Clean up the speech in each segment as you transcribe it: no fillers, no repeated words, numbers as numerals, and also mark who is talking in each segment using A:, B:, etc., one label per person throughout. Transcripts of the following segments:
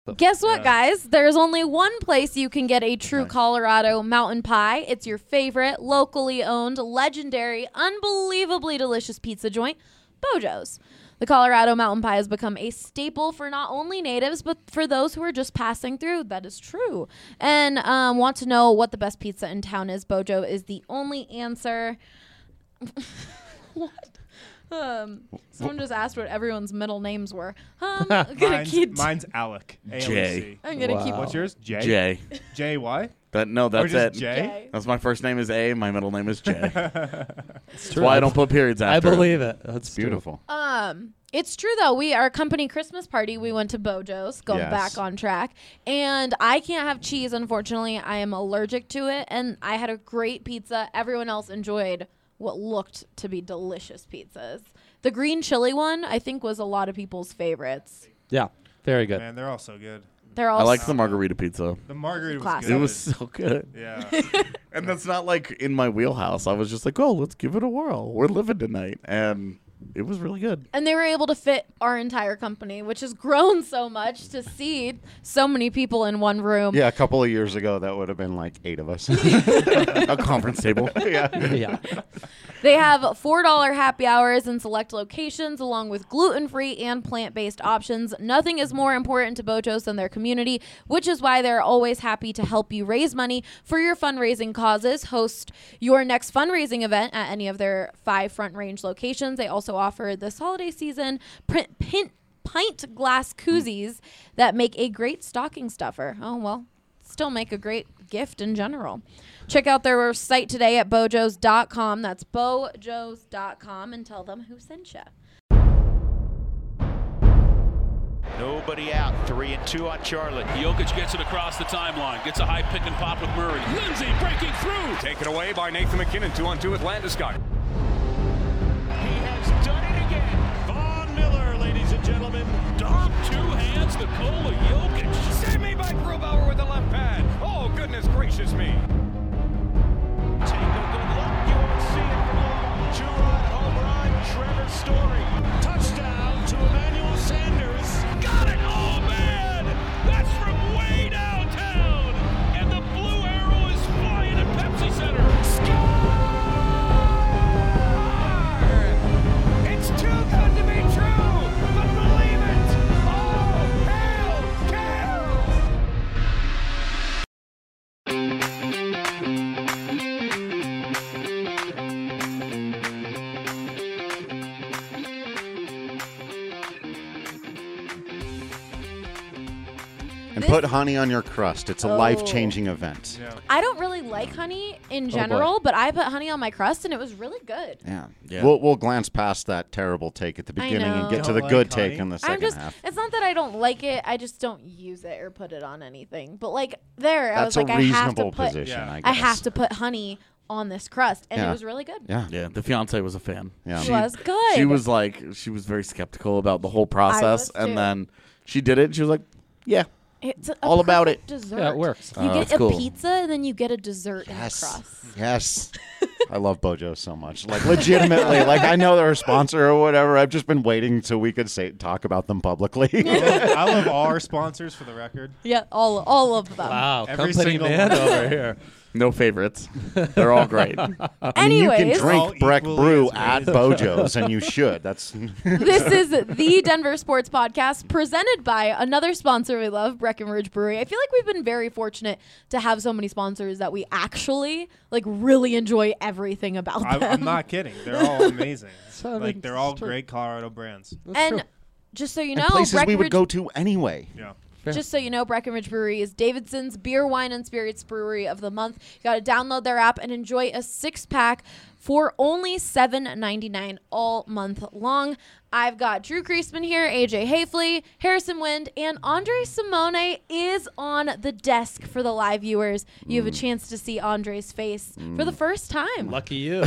A: Guess what, guys? There's only one place you can get a true Colorado mountain pie. It's your favorite, locally owned, legendary, unbelievably delicious pizza joint, Bojo's. The Colorado mountain pie has become a staple for not only natives, but for those who are just passing through. That is true. And want to know what the best pizza in town is? Bojo is the only answer. What? Someone just asked what everyone's middle names were.
B: Mine's Alec.
C: Jay.
A: I'm gonna keep.
B: What's yours? Jay.
C: Jay.
B: Jay. Why?
C: That's
B: Or just
C: it.
B: Jay.
C: That's my first name is A. My middle name is Jay. That's why I don't put periods after.
D: I believe it. That's
E: beautiful.
A: It's true though. Our company Christmas party, we went to Bojo's, going back on track, and I can't have cheese. Unfortunately, I am allergic to it, and I had a great pizza. Everyone else enjoyed what looked to be delicious pizzas. The green chili one, I think, was a lot of people's favorites.
D: Yeah, very good.
B: Man, they're all so good.
C: I like the margarita pizza.
B: The margarita was
A: Classic.
B: good.
C: It was so good.
B: Yeah.
C: And that's not like in my wheelhouse. I was just like, oh, let's give it a whirl. We're living tonight. And it was really good.
A: And they were able to fit our entire company, which has grown so much to seat so many people in one room.
E: Yeah, a couple of years ago, that would have been like 8 of us.
C: A conference table.
D: Yeah.
A: They have $4 happy hours in select locations, along with gluten-free and plant-based options. Nothing is more important to Bojo's than their community, which is why they're always happy to help you raise money for your fundraising causes. Host your next fundraising event at any of their 5 Front Range locations. They also offer this holiday season pint glass koozies that make a great stocking stuffer. Oh, well, still make a great gift in general. Check out their site today at bojos.com. That's bojos.com, and tell them who sent you.
F: Nobody out. 3 and 2 on Charlotte.
G: Jokic gets it across the timeline. Gets a high pick and pop with Murray. Lindsay breaking through.
H: Taken away by Nathan McKinnon. 2-on-2 with Landeskog.
F: He has done it again.
G: Von Miller, ladies and gentlemen. Dom, 2 hands, Nikola Jokic.
H: Save me by Grubauer with the left pad. Oh, goodness gracious me.
F: Take a good look. You won't see it for long. 2-run home run. Trevor Story.
G: Touchdown to Emmanuel Sanders. Got it! Oh, man! That's from way downtown. And the blue arrow is flying at Pepsi Center.
F: It's too good to be true, but believe it. Oh, hail, Cal!
E: And put honey on your crust. It's a life-changing event.
B: Yeah.
A: I don't really like honey in general, but I put honey on my crust, and it was really good.
E: Yeah.
C: Yeah.
E: We'll glance past that terrible take at the beginning and get to
B: Don't
E: the
B: like
E: good
B: honey?
E: take in the
A: I'm
E: second
A: just,
E: half.
A: it's not that I don't like it. I just don't use it or put it on anything. But like there, I was
E: That's
A: like,
E: a
A: I have to
E: reasonable
A: put,
E: position,
B: Yeah.
E: I guess.
A: I have to put honey on this crust, and it
E: Yeah.
A: was really good.
E: Yeah.
C: Yeah, the fiance was a fan.
E: Yeah.
A: It was good.
C: She was very skeptical about the whole process.
A: was
C: And
A: too.
C: then she did it. And she was like, yeah.
A: It's a
C: all about
A: perfect
C: it.
A: Dessert.
D: Yeah, it works.
A: You get
C: that's
A: a
C: cool.
A: pizza, and then you get a dessert in the
E: Yes.
A: crust.
E: Yes. I love Bojo so much. Like, legitimately. Like, I know they're a sponsor or whatever. I've just been waiting till we could talk about them publicly.
B: I love all our sponsors, for the record.
A: Yeah, all of them.
D: Wow,
B: Every
D: company
B: single
D: man
B: one.
D: over here.
C: No favorites. They're all great.
E: I mean, you
A: Anyways,
E: can
B: All
E: drink Breck
B: equally
E: Brew
B: as great
E: at
B: as-
E: Bojo's, and you should. That's
A: this is the Denver Sports Podcast, presented by another sponsor we love, Breckenridge Brewery. I feel like we've been very fortunate to have so many sponsors that we actually really enjoy everything about them.
B: I'm not kidding. They're all amazing.
D: I mean,
B: They're all
D: it's true.
B: great Colorado brands.
A: And just so you know,
E: and places we would
A: Breckenridge
E: go to anyway.
B: Yeah.
A: Just so you know, Breckenridge Brewery is Davidson's Beer, Wine, and Spirits Brewery of the Month. You got to download their app and enjoy a 6-pack for only $7.99 all month long. I've got Drew Kreisman here, AJ Hafley, Harrison Wind, and Andre Simone is on the desk for the live viewers. You have a chance to see Andre's face for the first time.
D: Lucky you.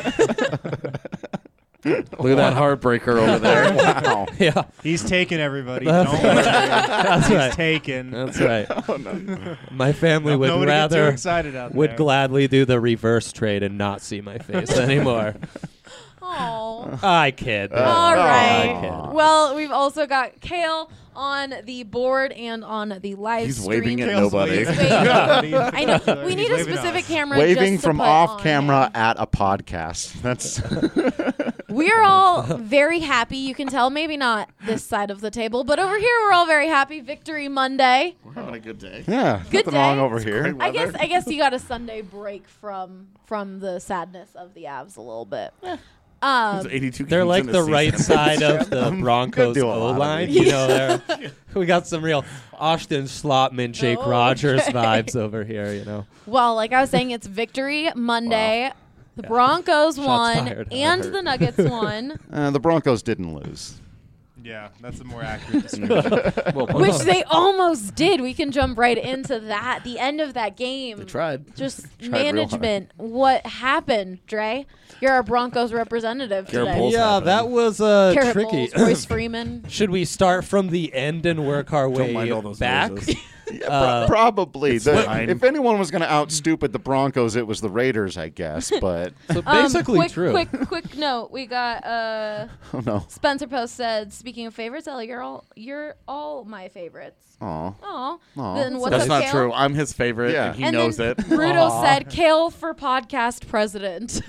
C: Look at that heartbreaker over there.
E: Wow.
D: Yeah,
B: He's taken everybody.
D: That's
B: Don't worry.
D: that's
B: He's
D: right.
B: taken.
D: That's right. My family would
B: Nobody get too
D: rather
B: excited out
D: would
B: there.
D: gladly do the reverse trade and not see my face anymore.
A: Oh.
D: I kid.
A: All right.
D: I kid.
A: Well, we've also got Kale on the board and on the live
C: He's
A: stream.
C: waving at
B: Kale's
C: nobody.
B: waving.
A: Wait. I know. We
B: He's
A: need a
B: waving at
A: specific
B: us.
A: camera.
E: Waving
A: just to
E: from
A: put
E: off
A: on
E: camera
A: him.
E: at a podcast. That's
A: We're all very happy. You can tell, maybe not this side of the table, but over here we're all very happy. Victory Monday.
C: We're having a good day.
E: yeah.
A: Good
E: Nothing wrong
A: day.
E: over here.
A: I guess you got a Sunday break from the sadness of the Avs a little bit.
C: There's
A: Um,
C: 82
D: They're
C: games
D: like
C: in a
D: the
C: season.
D: right side of the Broncos
E: do a lot of
D: O-line.
E: it.
D: You know, we got some real Austin Slotman, Jake
A: Oh,
D: Rogers
A: okay.
D: vibes over here, you know.
A: well, like I was saying, it's Victory Monday. The Broncos won
D: fired. That
A: and
D: hurt.
A: the Nuggets won,
E: The Broncos didn't lose.
B: Yeah, that's a more accurate description.
A: which they almost did. We can jump right into that. The end of that game.
C: They tried.
A: Just
E: Tried real
A: management. What happened, Dre? You're our Broncos representative
C: Garrett
A: today.
C: Bowles.
D: Yeah,
C: happened.
D: that was
A: Garrett
D: tricky.
A: Bowles, Royce Freeman.
D: Should we start from the end and work our
C: Don't mind
D: way
C: all those
D: back?
C: noises.
E: Yeah, probably.
C: fine.
E: If anyone was going to out stupid the Broncos, it was the Raiders, I guess. But
D: So basically
A: quick,
D: true.
A: Quick note. We got
E: oh no.
A: Spencer Post said, speaking of favorites, Ellie, you're all my favorites.
E: Aw.
A: Oh,
E: Aw.
A: then what's
C: That's
A: up,
C: not
A: Kale?
C: true. I'm his favorite,
E: Yeah.
C: and he
A: And
C: knows
A: then
C: it.
A: Bruto
D: Aw.
A: said, Kale for podcast president.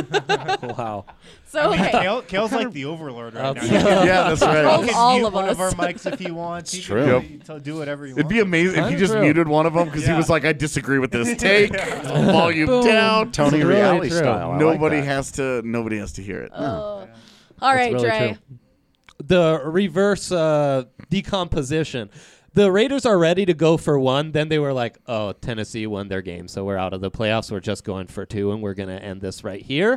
D: Wow.
A: So, okay.
B: Kale's like the overlord right now.
D: Absolutely.
C: Yeah, that's right.
A: Controls
B: He can
A: all
B: mute
A: of
B: one of our
A: us.
B: mics if he wants. He
E: It's
B: can
E: true.
B: do whatever he
C: It'd
B: wants.
C: be amazing if he just
D: True.
C: muted one of them because he
B: Yeah.
C: was like, "I disagree with this take. Volume
D: Boom.
C: down."
E: Tony
D: It's really
E: Reale
D: true.
E: style. I
C: Nobody
E: like that.
C: has to hear it.
A: All right,
D: That's really
A: Dre.
D: true. The reverse decomposition. The Raiders are ready to go for one. Then they were like, oh, Tennessee won their game, so we're out of the playoffs. We're just going for two, and we're going to end this right here.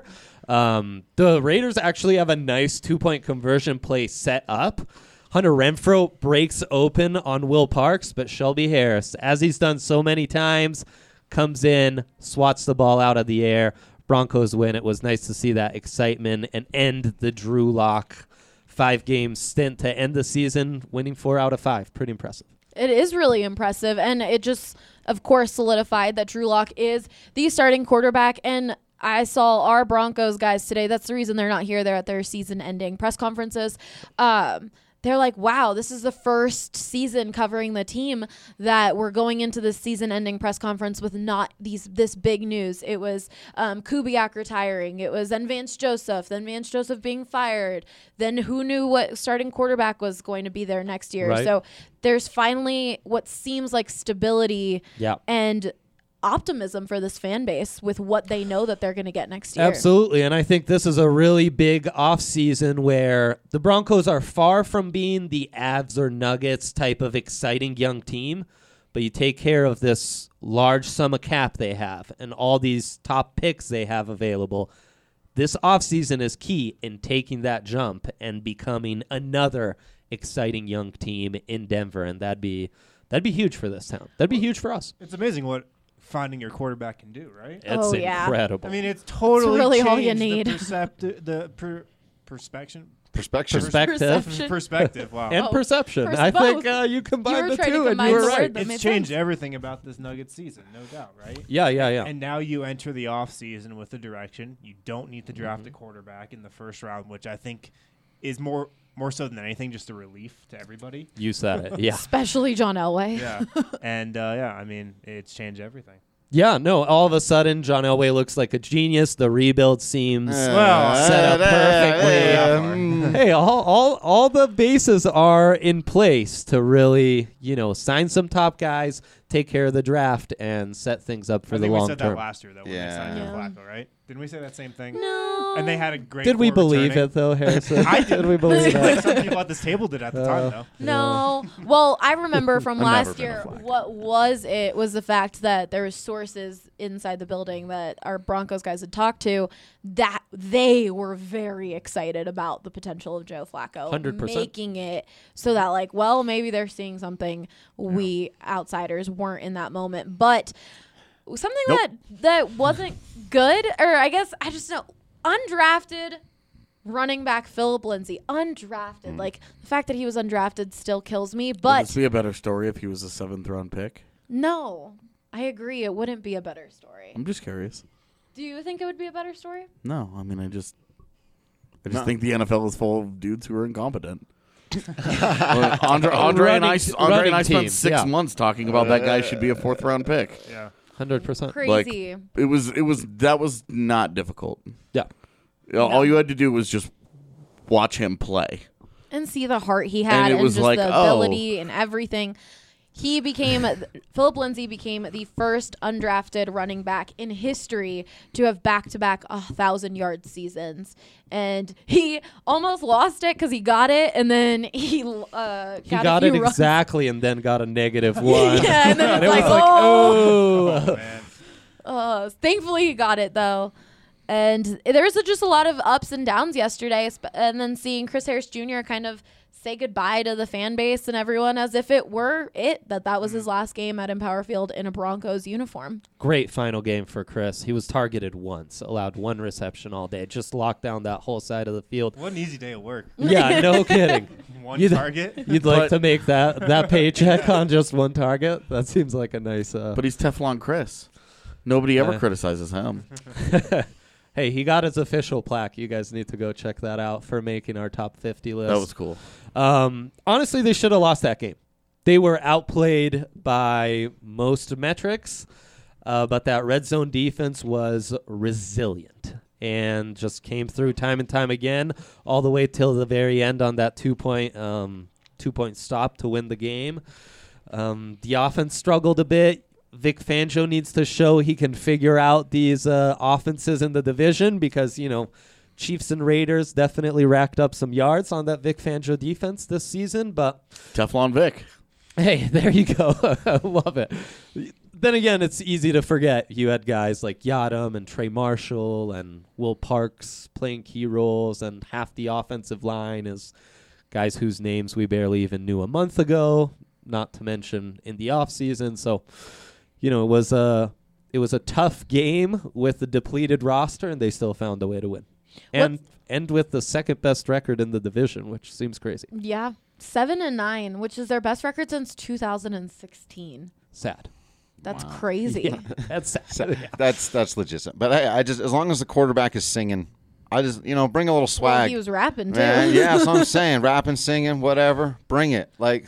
D: The Raiders actually have a nice two-point conversion play set up. Hunter Renfrow breaks open on Will Parks, but Shelby Harris, as he's done so many times, comes in, swats the ball out of the air. Broncos win. It was nice to see that excitement and end the Drew Lock 5-game stint to end the season, winning 4 out of 5. Pretty impressive.
A: It is really impressive, and it just, of course, solidified that Drew Lock is the starting quarterback. And I saw our Broncos guys today. That's the reason they're not here. They're at their season-ending press conferences. They're like, wow, this is the first season covering the team that we're going into this season-ending press conference with not this big news. It was Kubiak retiring. It was then Vance Joseph being fired. Then who knew what starting quarterback was going to be there next year.
D: Right.
A: So there's finally what seems like stability
D: Yeah.
A: and optimism for this fan base with what they know that they're going to get next year.
D: Absolutely, and I think this is a really big offseason where the Broncos are far from being the Avs or Nuggets type of exciting young team, but you take care of this large sum of cap they have and all these top picks they have available. This offseason is key in taking that jump and becoming another exciting young team in Denver, and that'd be huge for this town. That'd be huge for us.
B: It's amazing what finding your quarterback can do, right?
D: It's
A: Oh, yeah.
D: incredible.
B: I mean, it's totally
A: really all
B: changed
A: you need.
B: Perspection.
E: Perspective.
A: Perception.
B: Perspective. Wow.
D: and
A: Oh,
D: perception.
A: first
D: I think
A: both.
D: you combine
A: You were
D: the
A: trying to
D: two, and
A: combine
D: you were
A: the
D: right.
A: word that
B: It's
A: made
B: changed
A: sense.
B: everything about this Nuggets season, no doubt, right?
D: Yeah.
B: And now you enter the offseason with a direction. You don't need to draft a quarterback in the first round, which I think is more so than anything just a relief to everybody.
D: You said it. Yeah.
A: Especially John Elway.
B: Yeah. And I mean, it's changed everything.
D: Yeah, no, all of a sudden, John Elway looks like a genius. The rebuild seems set up perfectly. Hey, all the bases are in place to really, sign some top guys, take care of the draft, and set things up for
B: I
D: the
B: think we
D: long
B: said
D: term.
B: that last year, though, when they signed
A: Yeah.
B: Flacco, right? Didn't we say that same thing?
A: No.
B: And they had a great
D: Did we
B: core
D: believe
B: returning.
D: it, though, Harrison?
B: I
D: Did we believe
B: like
D: it?
B: some people at this table did at the time, though.
A: No. Well, I remember from
E: I've never
A: last
E: been a
A: year
E: Flacco.
A: what was the fact that there was sources inside the building that our Broncos guys had talked to that they were very excited about the potential of Joe Flacco
D: 100%.
A: making it so that maybe they're seeing something we outsiders weren't in that moment. But something that wasn't good, or I guess I just know, undrafted running back Philip Lindsay, undrafted. Like, the fact that he was undrafted still kills me.
C: Would
A: But
C: this be a better story if he was a 7th-round pick?
A: no, I agree. It wouldn't be a better story.
C: I'm just curious.
A: Do you think it would be a better story?
C: No, I mean, I just
E: No.
C: think the NFL is full of dudes who are incompetent. Andre and I
D: running
C: spent
D: team,
C: 6
D: yeah.
C: months talking about that guy should be a 4th round pick.
B: Yeah.
D: 100%.
A: Crazy.
C: That was not difficult.
D: Yeah.
C: All you had to do was just watch him play.
A: And see the heart he had
C: And it
A: and,
C: was
A: just
C: like,
A: the
C: oh.
A: ability and everything. Philip Lindsay became the first undrafted running back in history to have back-to-back 1,000-yard seasons. And he almost lost it because he got it, and then he got
D: it
A: runs.
D: exactly and then got a -1.
A: Yeah, and then
D: And
A: it's
D: it
A: like,
D: was like,
B: Oh, man.
A: thankfully he got it, though. And there was just a lot of ups and downs yesterday, and then seeing Chris Harris Jr. kind of say goodbye to the fan base and everyone as if it were that was his last game at Empower Field in a Broncos uniform.
D: Great final game for Chris. He was targeted once, allowed 1 reception all day, just locked down that whole side of the field.
B: What an easy day of work.
D: Yeah, no kidding.
B: One target.
D: You'd like to make that paycheck on just 1 target? That seems like a nice...
C: But he's Teflon Chris. Nobody ever
D: Yeah.
C: criticizes him.
D: Hey, he got his official plaque. You guys need to go check that out for making our top 50 list.
C: That was cool.
D: Honestly, they should have lost that game. They were outplayed by most metrics, but that red zone defense was resilient and just came through time and time again, all the way till the very end on that 2-point stop to win the game. The offense struggled a bit. Vic Fangio needs to show he can figure out these offenses in the division because, Chiefs and Raiders definitely racked up some yards on that Vic Fangio defense this season, but
C: Teflon Vic.
D: hey, there you go. I love it. Then again, it's easy to forget you had guys like Yadam and Trey Marshall and Will Parks playing key roles, and half the offensive line is guys whose names we barely even knew a month ago, not to mention in the offseason. So, it was a tough game with the depleted roster, and they still found a way to win. And with the second best record in the division, which seems crazy.
A: Yeah, 7-9, which is their best record since 2016.
D: Sad.
A: That's crazy.
D: Yeah, that's sad. Yeah.
E: That's legit. But I just, as long as the quarterback is singing, I just, bring a little
A: Well,
E: swag.
A: he was rapping too.
E: Man, yeah, that's what I'm saying. Rapping, singing, whatever. Bring it. Like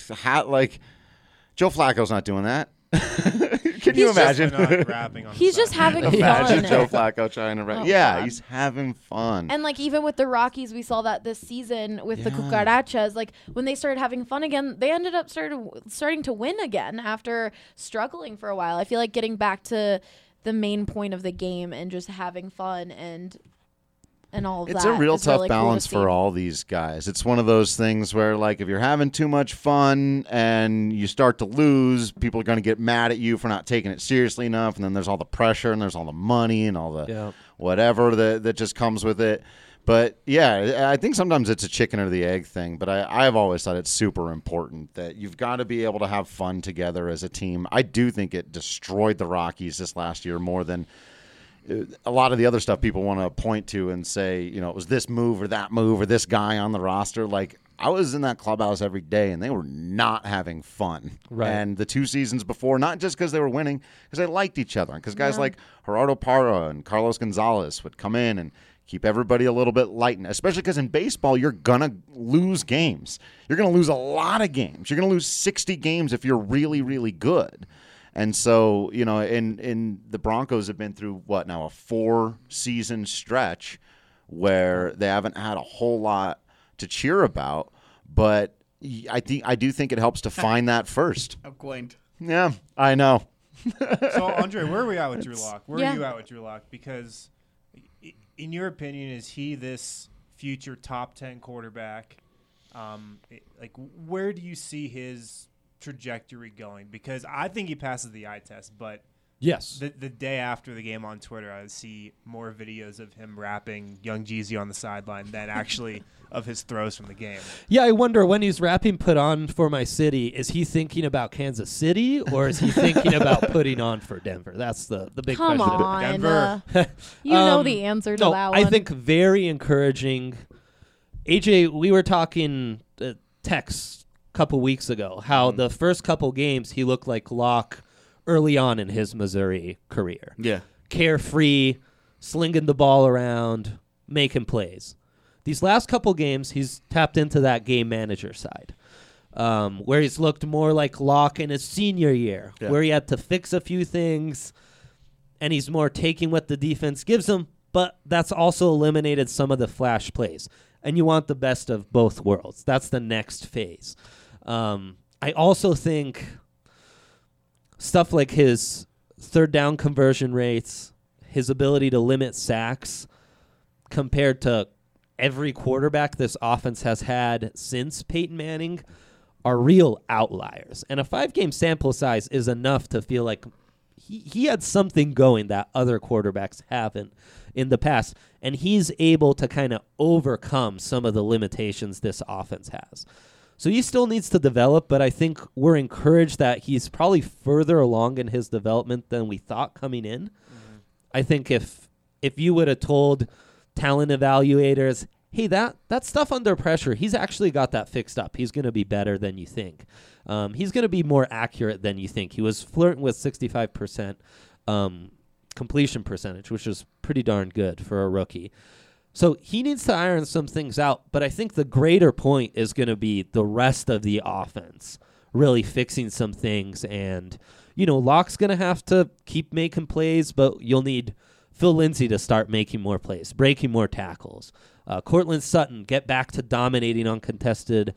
E: Joe Flacco's not doing that. Can you imagine?
B: Not rapping on
A: He's
B: the
A: just
B: side.
A: having
E: Imagine
A: fun.
E: Joe Flacco trying to rap.
A: Oh,
E: Yeah,
A: God.
E: he's having fun.
A: And even with the Rockies, we saw that this season with the
E: Yeah.
A: Cucarachas. When they started having fun again, they ended up starting to win again after struggling for a while. I feel like getting back to the main point of the game and just having fun and all of
E: It's
A: that.
E: a real
A: is
E: tough
A: really cool to
E: balance
A: see.
E: for all these guys. It's one of those things where, if you're having too much fun and you start to lose, people are going to get mad at you for not taking it seriously enough. And then there's all the pressure and there's all the money and all the whatever that just comes with it. But, yeah, I think sometimes it's a chicken or the egg thing. But I've always thought it's super important that you've got to be able to have fun together as a team. I do think it destroyed the Rockies this last year more than a lot of the other stuff people want to point to and say, it was this move or that move or this guy on the roster. I was in that clubhouse every day, and they were not having fun.
D: Right.
E: And the 2 seasons before, not just because they were winning, because they liked each other. Because guys like Gerardo Parra and Carlos Gonzalez would come in and keep everybody a little bit light. Especially because in baseball, you're going to lose games. You're going to lose a lot of games. You're going to lose 60 games if you're really, really good. And so, in the Broncos have been through a 4-season stretch where they haven't had a whole lot to cheer about, but I do think it helps to find that first.
C: How quaint.
E: Yeah, I know.
B: So, Andre, where are we at with Drew Lock? Where
A: Yeah.
B: are you at with Drew Lock? Because, in your opinion, is he this future top 10 quarterback? Where do you see his trajectory going? Because I think he passes the eye test, but
D: Yes.
B: the day after the game on Twitter, I see more videos of him rapping Young Jeezy on the sideline than actually of his throws from the game.
D: Yeah, I wonder when he's rapping "Put On for My City," is he thinking about Kansas City or is he thinking about putting on for Denver? That's the big
A: Come
D: question.
A: on.
B: Denver.
A: You know the answer to
D: No,
A: that one.
D: I think very encouraging. AJ, we were talking text a couple weeks ago, how the first couple games he looked like Locke early on in his Missouri career.
C: Yeah.
D: Carefree, slinging the ball around, making plays. These last couple games, he's tapped into that game manager side, where he's looked more like Locke in his senior year, where he had to fix a few things, and he's more taking what the defense gives him, but that's also eliminated some of the flash plays. And you want the best of both worlds. That's the next phase. I also think stuff like his third down conversion rates, his ability to limit sacks compared to every quarterback this offense has had since Peyton Manning are real outliers. And a 5-game sample size is enough to feel like he had something going that other quarterbacks haven't in the past. And he's able to kind of overcome some of the limitations this offense has. So he still needs to develop, but I think we're encouraged that he's probably further along in his development than we thought coming in. Mm-hmm. I think if you would have told talent evaluators, hey, that stuff under pressure, he's actually got that fixed up. He's going to be better than you think. He's going to be more accurate than you think. He was flirting with 65% completion percentage, which is pretty darn good for a rookie. So he needs to iron some things out, but I think the greater point is going to be the rest of the offense really fixing some things. And, Locke's going to have to keep making plays, but you'll need Phil Lindsay to start making more plays, breaking more tackles. Cortland Sutton, get back to dominating uncontested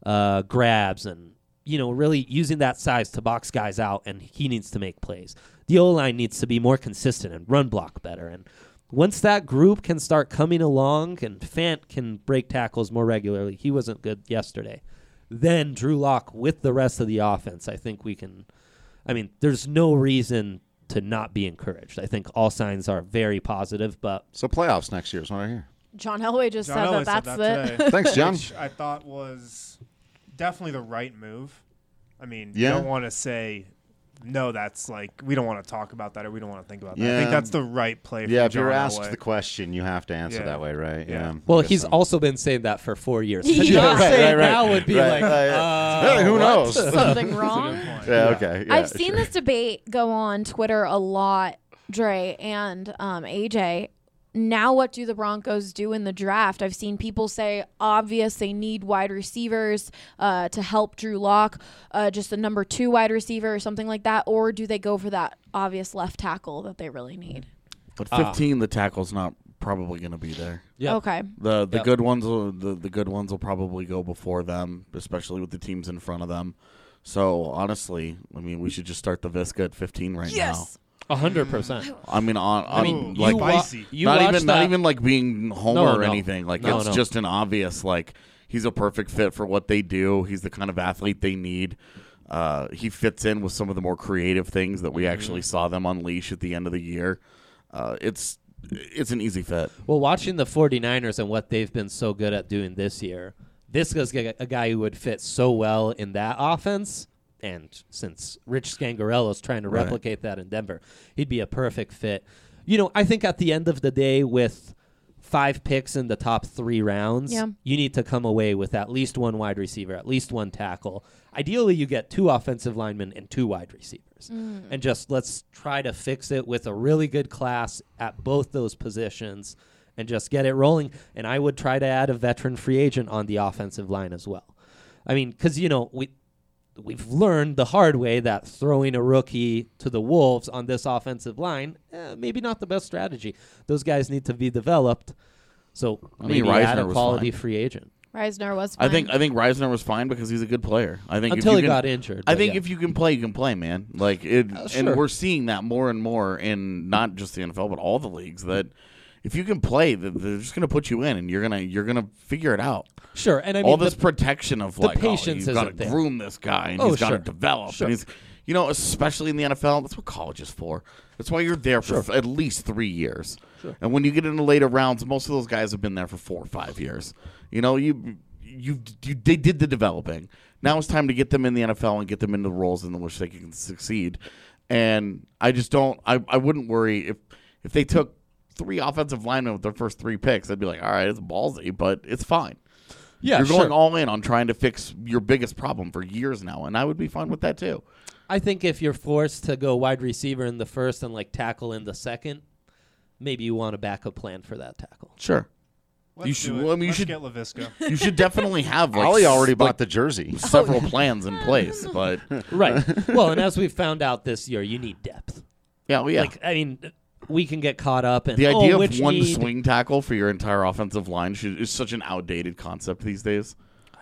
D: grabs and, really using that size to box guys out, and he needs to make plays. The O-line needs to be more consistent and run block better. And once that group can start coming along and Fant can break tackles more regularly, he wasn't good yesterday, then Drew Lock with the rest of the offense, I think we can, there's no reason to not be encouraged. I think all signs are very positive, but...
E: So playoffs next year is what I hear.
A: John Elway just said
B: Elway
A: that's
B: said
A: it.
B: today.
E: Thanks, John.
B: Which I thought was definitely the right move. You
E: Yeah.
B: don't want to say... No, that's we don't want to talk about that or we don't want to think about that. I
E: Yeah.
B: think that's the right play for
E: Yeah, if
B: John
E: you're asked
B: Elway.
E: the question, you have to answer
B: Yeah.
E: that way, right?
B: Yeah.
D: Well,
E: I guess
D: he's
E: so.
D: also been saying that for 4 years.
A: Yeah.
D: To not
A: Right,
D: say it
E: right,
D: now would be
E: right.
D: like,
E: Hey, who
D: what?
E: knows?
A: Something wrong.
E: Yeah, okay. Yeah,
A: I've seen
E: sure.
A: this debate go on Twitter a lot, Dre and AJ. Now what do the Broncos do in the draft? I've seen people say, obvious, they need wide receivers to help Drew Lock, just a number 2 wide receiver or something like that, or do they go for that obvious left tackle that they really need?
C: But 15, the tackle's not probably going to be there.
D: Yep.
A: Okay.
C: The
D: Yep.
C: good ones the good ones will probably go before them, especially with the teams in front of them. So honestly, we should just start the Visca at 15 right now.
D: 100%.
C: Like
B: spicy.
C: not even like being Homer
D: No,
C: or
D: no.
C: anything. Like
D: No,
C: it's
D: no.
C: just an obvious he's a perfect fit for what they do. He's the kind of athlete they need. He fits in with some of the more creative things that we actually saw them unleash at the end of the year. It's an easy fit.
D: Well, watching the 49ers and what they've been so good at doing this year, Visca's a guy who would fit so well in that offense. And since Rich Scangarello's trying to
C: Right.
D: replicate that in Denver, he'd be a perfect fit. I think at the end of the day, with 5 picks in the top 3 rounds,
A: Yeah.
D: you need to come away with at least 1 wide receiver, at least 1 tackle. Ideally, you get 2 offensive linemen and 2 wide receivers. And just let's try to fix it with a really good class at both those positions and just get it rolling. And I would try to add a veteran free agent on the offensive line as well. Because, we've learned the hard way that throwing a rookie to the Wolves on this offensive line, maybe not the best strategy. Those guys need to be developed. So maybe add a
C: Reisner was
D: quality
C: fine.
D: free agent.
A: Reisner was fine.
C: I think Reisner was fine because he's a good player. I think
D: Until
C: if
D: he
C: you can,
D: got injured.
C: I
D: but
C: think
D: yeah.
C: if you can play, you can play, man. And
D: sure.
C: we're seeing that more and more in not just the NFL but all the leagues. That if you can play, they're just going to put you in, and you're gonna figure it out.
D: Sure, and
C: All this protection of
D: patience
C: you've got to
D: isn't there.
C: groom this guy, and
D: Oh,
C: he's got to
D: sure.
C: develop,
D: Sure.
C: and he's, especially in the NFL, that's what college is for. That's why you're there for at least 3 years. Sure. And when you get into later rounds, most of those guys have been there for 4 or 5 years. They did the developing. Now it's time to get them in the NFL and get them into the roles in which they can succeed. And I just don't. I wouldn't worry if they took 3 offensive linemen with their first 3 picks. I'd be like, all right, it's ballsy, but it's fine.
D: yeah,
C: You're
D: sure.
C: going all in on trying to fix your biggest problem for years now, and I would be fine with that too.
D: I think if you're forced to go wide receiver in the first and tackle in the second, maybe you want a backup plan for that tackle.
C: Sure.
B: Let's
C: You should-
B: do it.
C: well, I mean, you
B: Let's
C: should-
B: get Lavisca.
C: You should definitely have like
E: Ollie already bought
C: like,
E: the jersey.
C: several plans in place, but
D: Right. Well, and as we found out this year, you need depth.
C: yeah, well, yeah.
D: Like, I mean, we can get caught up in
C: The idea
D: which
C: of one
D: need-
C: swing tackle for your entire offensive line is such an outdated concept these days.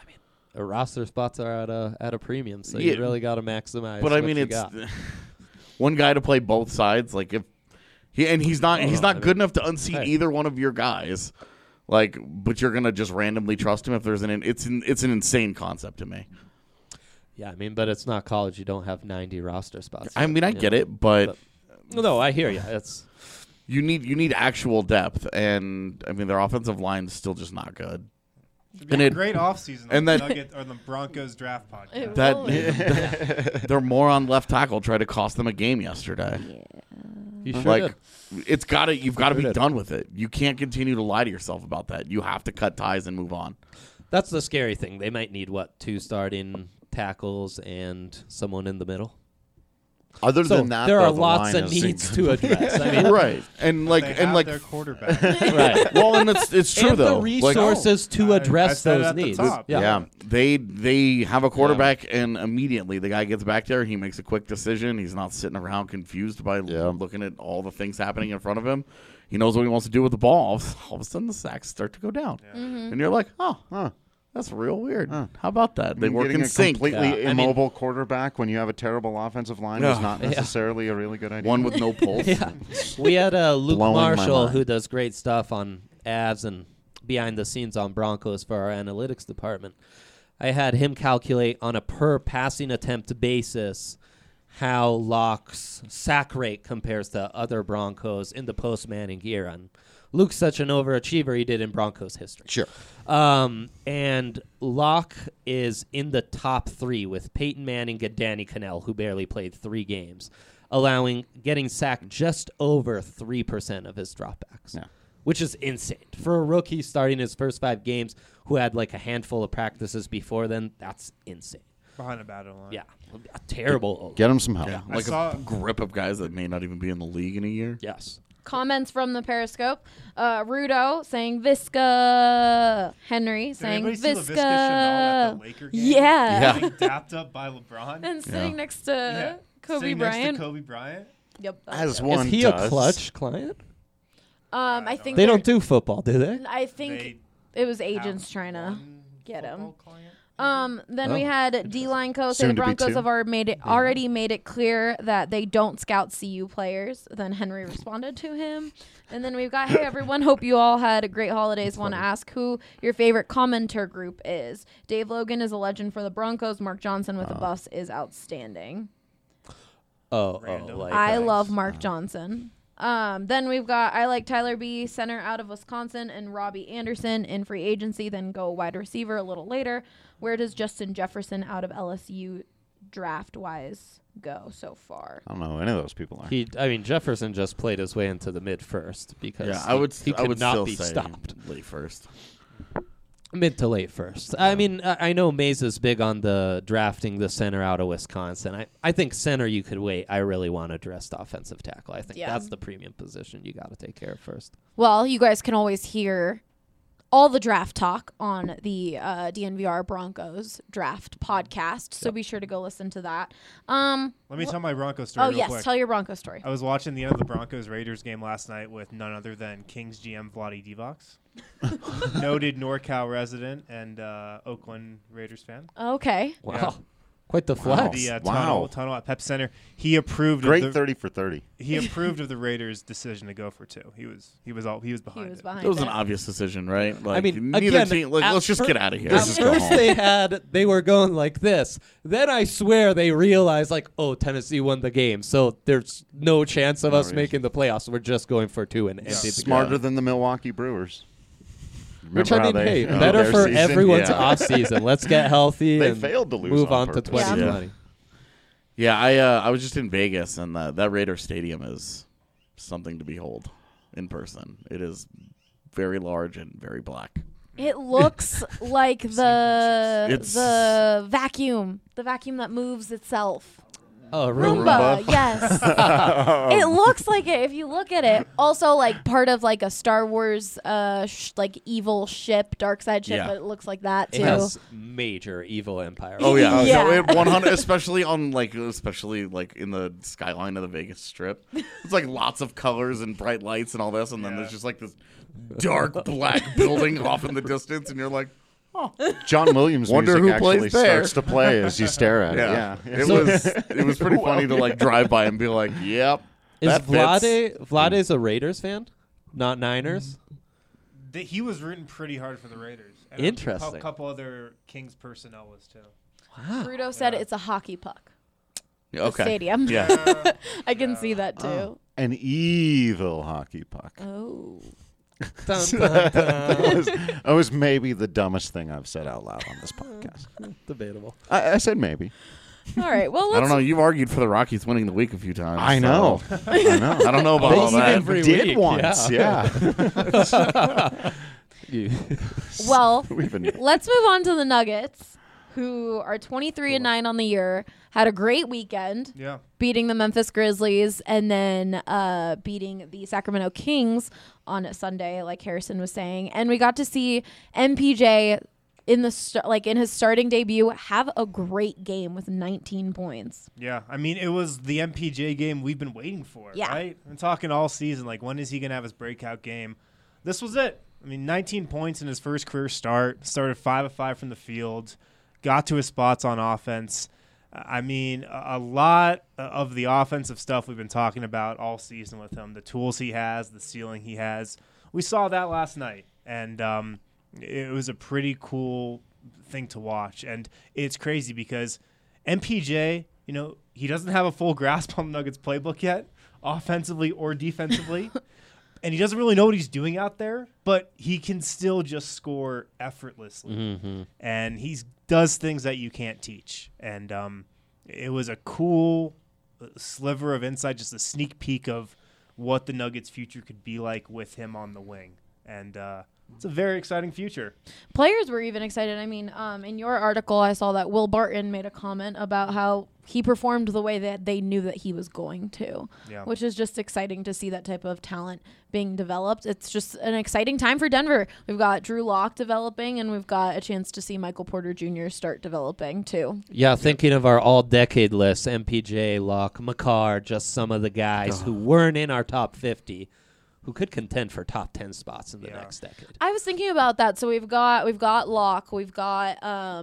D: roster spots are at a premium, so
C: Yeah.
D: you really got to maximize.
C: But I
D: what
C: mean,
D: you
C: it's
D: got.
C: one guy to play both sides. Like if he's not good enough to unseat
D: Hey.
C: either one of your guys. Like, but you're gonna just randomly trust him if there's it's an insane concept to me.
D: Yeah, I mean, but it's not college. You don't have 90 roster spots.
C: I mean, I
D: You
C: get
D: know?
C: it, but
D: No, I hear you. It's
C: you need actual depth, and I mean their offensive line's still just not good.
B: It'd be
C: And
B: a
C: it-
B: great offseason
C: and
B: on
C: then-
B: the Nugget or the Broncos draft podcast.
A: It
C: That
A: will.
C: their moron left tackle tried to cost them a game yesterday.
D: you sure
C: Like
D: did.
C: you've got to be
D: did.
C: done with it. You can't continue to lie to yourself about that. You have to cut ties and move on.
D: That's the scary thing. They might need 2 starting tackles and someone in the middle.
E: Other
D: So
E: than that,
D: there
E: though,
D: are
E: the
D: lots
E: line
D: of
E: is-
D: needs to address. I mean,
C: Right. And like
B: They
C: and
B: have
C: like
B: their quarterback.
D: right.
C: well, and it's true
D: and
C: though.
D: the
C: Like,
D: resources to
B: I
D: address
B: said it
D: those
B: at the
D: needs.
B: top.
E: Yeah.
C: they have a quarterback and immediately the guy gets back there, he makes a quick decision. He's not sitting around confused by looking at all the things happening in front of him. He knows what he wants to do with the ball. All of a sudden the sacks start to go down. And you're like,
E: Huh.
C: that's real weird. How about that? They
E: I mean,
C: work
E: getting
C: in
E: a
C: sync.
E: completely
D: Yeah, I mean-
E: immobile quarterback when you have a terrible offensive line is not necessarily a really good idea.
C: One with no pulse.
D: Yeah. We had Luke
E: Blowing my
D: Marshall,
E: mind.
D: who does great stuff on Avs and behind the scenes on Broncos for our analytics department. I had him calculate on a per passing attempt basis how Locke's sack rate compares to other Broncos in the post-Manning era. And Luke's such an overachiever, he did in Broncos history.
E: Sure.
D: And Locke is in the top 3 with Peyton Manning and Danny Cannell, who barely played 3 games, getting sacked just over 3% of his dropbacks, which is insane. For a rookie starting his first 5 games who had like a handful of practices before then, that's insane.
B: Behind a battle line.
D: Yeah, a terrible.
E: Get him some help.
B: I
C: Like
B: saw-
C: a group of guys that may not even be in the league in a year.
D: Yes.
A: Comments from the Periscope. Rudo saying Visca. Henry
B: Did
A: saying
B: anybody see Laviska Shenault at
A: Visca.
B: the Laker game?
A: Yeah.
B: Getting dapped up by LeBron.
A: And sitting next to Kobe
B: Sitting
A: Bryant.
B: Next to Kobe Bryant.
A: Yep.
E: As
A: it.
E: one
D: Is he
E: does.
D: a clutch client?
A: I think
D: They
A: they're-
D: don't do football, do they?
A: I think
B: They
A: it was agents
B: have
A: trying to
B: one
A: get him.
B: football client.
A: Then we had D-Line Co. say
E: Soon
A: the
E: to be
A: Broncos
E: two.
A: have already made it clear that they don't scout CU players. Then Henry responded to him. And then we've got, hey, everyone, hope you all had a great holidays. Want to ask who your favorite commenter group is. Dave Logan is a legend for the Broncos. Mark Johnson with the Buffs is outstanding.
B: Random.
D: Like
A: I love Mark Johnson. Then we've got I like Tyler B, center out of Wisconsin, and Robbie Anderson in free agency. Then go wide receiver a little later. Where does Justin Jefferson out of LSU draft wise go so far?
E: I don't know who any of those people are.
D: Jefferson just played his way into the mid first because
C: Yeah, I would.
D: he
C: I
D: could
C: would
D: not
C: still
D: be
C: say
D: stopped.
C: late first.
D: Mid to late first. I mean, I know Mays is big on the drafting the center out of Wisconsin. I think center you could wait. I really want to address the offensive tackle. I think
A: Yeah.
D: that's the premium position you got to take care of first.
A: Well, you guys can always hear all the draft talk on the DNVR Broncos draft podcast. So be sure to go listen to that.
B: Let me tell my Broncos story
A: Oh,
B: real
A: yes.
B: quick.
A: Tell your Broncos story.
B: I was watching the end of the Broncos-Raiders game last night with none other than Kings GM Vlade Divac, noted NorCal resident and Oakland Raiders fan.
A: Okay.
D: Wow.
B: Yeah.
D: Quite the flex.
B: The
E: Wow.
B: tunnel at Pep Center. He approved
E: Great
B: of the
E: 30 for 30.
B: he approved of the Raiders' decision to go for 2. He was
A: He
B: behind
A: was
B: it.
A: behind
C: That was
A: it.
C: an obvious decision, right? Like,
D: mean,
C: neither
D: again,
C: team. Like,
D: at
C: let's just
D: fir-
C: get out of here.
D: At
E: Let's just go
D: first
E: home.
D: they were going like this. Then I swear they realized like, oh, Tennessee won the game, so there's no chance of us
E: reason.
D: making the playoffs. We're just going for 2 and ended the
E: Smarter
D: game.
E: than the Milwaukee Brewers.
D: Which
E: Remember
D: I mean,
E: how
D: hey,
E: ended
D: better
E: their
D: for
E: season?
D: everyone's
C: Yeah.
D: off season. Let's get healthy
E: They
D: and
E: failed to lose
D: move
E: on
D: on to
E: purpose.
D: 2020.
C: Yeah, I was just in Vegas, and that Raider Stadium is something to behold in person. It is very large and very black.
A: It looks like
C: It's-
A: the vacuum that moves itself.
D: Oh,
A: Roomba, yes. It looks like it if you look at it. Also, like part of like a Star Wars, like evil ship, dark side ship.
C: Yeah.
A: But it looks like that too.
D: It has major evil empire.
C: Oh yeah,
A: Yeah.
C: No, it 100, especially in the skyline of the Vegas Strip. It's like lots of colors and bright lights and all this, and then there's just like this dark black building off in the distance, and you're like,
E: John Williams
C: Wonder
E: music
C: who plays
E: actually
C: there.
E: starts to play as you stare at it.
C: yeah.
E: Yeah.
C: It was pretty funny to like drive by and be like, yep.
D: Is
C: that fits.
D: Vlade's a Raiders fan, not Niners?
B: He was rooting pretty hard for the Raiders. And
D: Interesting.
B: A couple other Kings personnel was too.
A: Bruto said it's a hockey puck. The
C: Okay.
A: stadium.
C: Yeah.
A: I can see that too.
E: An evil hockey puck.
A: Oh.
D: Dun, dun, dun.
E: That was maybe the dumbest thing I've said out loud on this podcast.
D: Debatable.
E: I said maybe.
A: All right. Well,
C: I
A: let's
C: don't know. You've argued for the Rockies winning the week a few times.
E: I know.
C: so-
E: I know.
C: I don't know about all
E: They
C: that.
E: even
D: Every
E: did
D: week,
E: once. Yeah.
A: Well,
E: We've been
A: let's move on to the Nuggets, who are 23-9 on the year. Had a great weekend,
B: Yeah.
A: beating the Memphis Grizzlies and then beating the Sacramento Kings on Sunday, like Harrison was saying. And we got to see MPJ in in his starting debut have a great game with 19 points.
B: Yeah, I mean, it was the MPJ game we've been waiting for,
A: Yeah.
B: right? I'm talking all season, like, when is he going to have his breakout game? This was it. I mean, 19 points in his first career start, started 5 of 5 from the field, got to his spots on offense. I mean, a lot of the offensive stuff we've been talking about all season with him, the tools he has, the ceiling he has, we saw that last night, and it was a pretty cool thing to watch. And it's crazy because MPJ, you know, he doesn't have a full grasp on the Nuggets playbook yet, offensively or defensively. And he doesn't really know what he's doing out there, but he can still just score effortlessly.
D: Mm-hmm.
B: And he does things that you can't teach. And it was a cool sliver of insight, just a sneak peek of what the Nuggets' future could be like with him on the wing. And it's a very exciting future.
A: Players were even excited. I mean, in your article, I saw that Will Barton made a comment about how he performed the way that they knew that he was going to,
B: Yeah.
A: which is just exciting to see that type of talent being developed. It's just an exciting time for Denver. We've got Drew Lock developing, and we've got a chance to see Michael Porter Jr. start developing, too.
D: Yeah, thinking of our all-decade list, MPJ, Locke, McCarr, just some of the guys who weren't in our top 50, who could contend for top 10 spots in the next decade.
A: I was thinking about that. So we've got Locke, we've got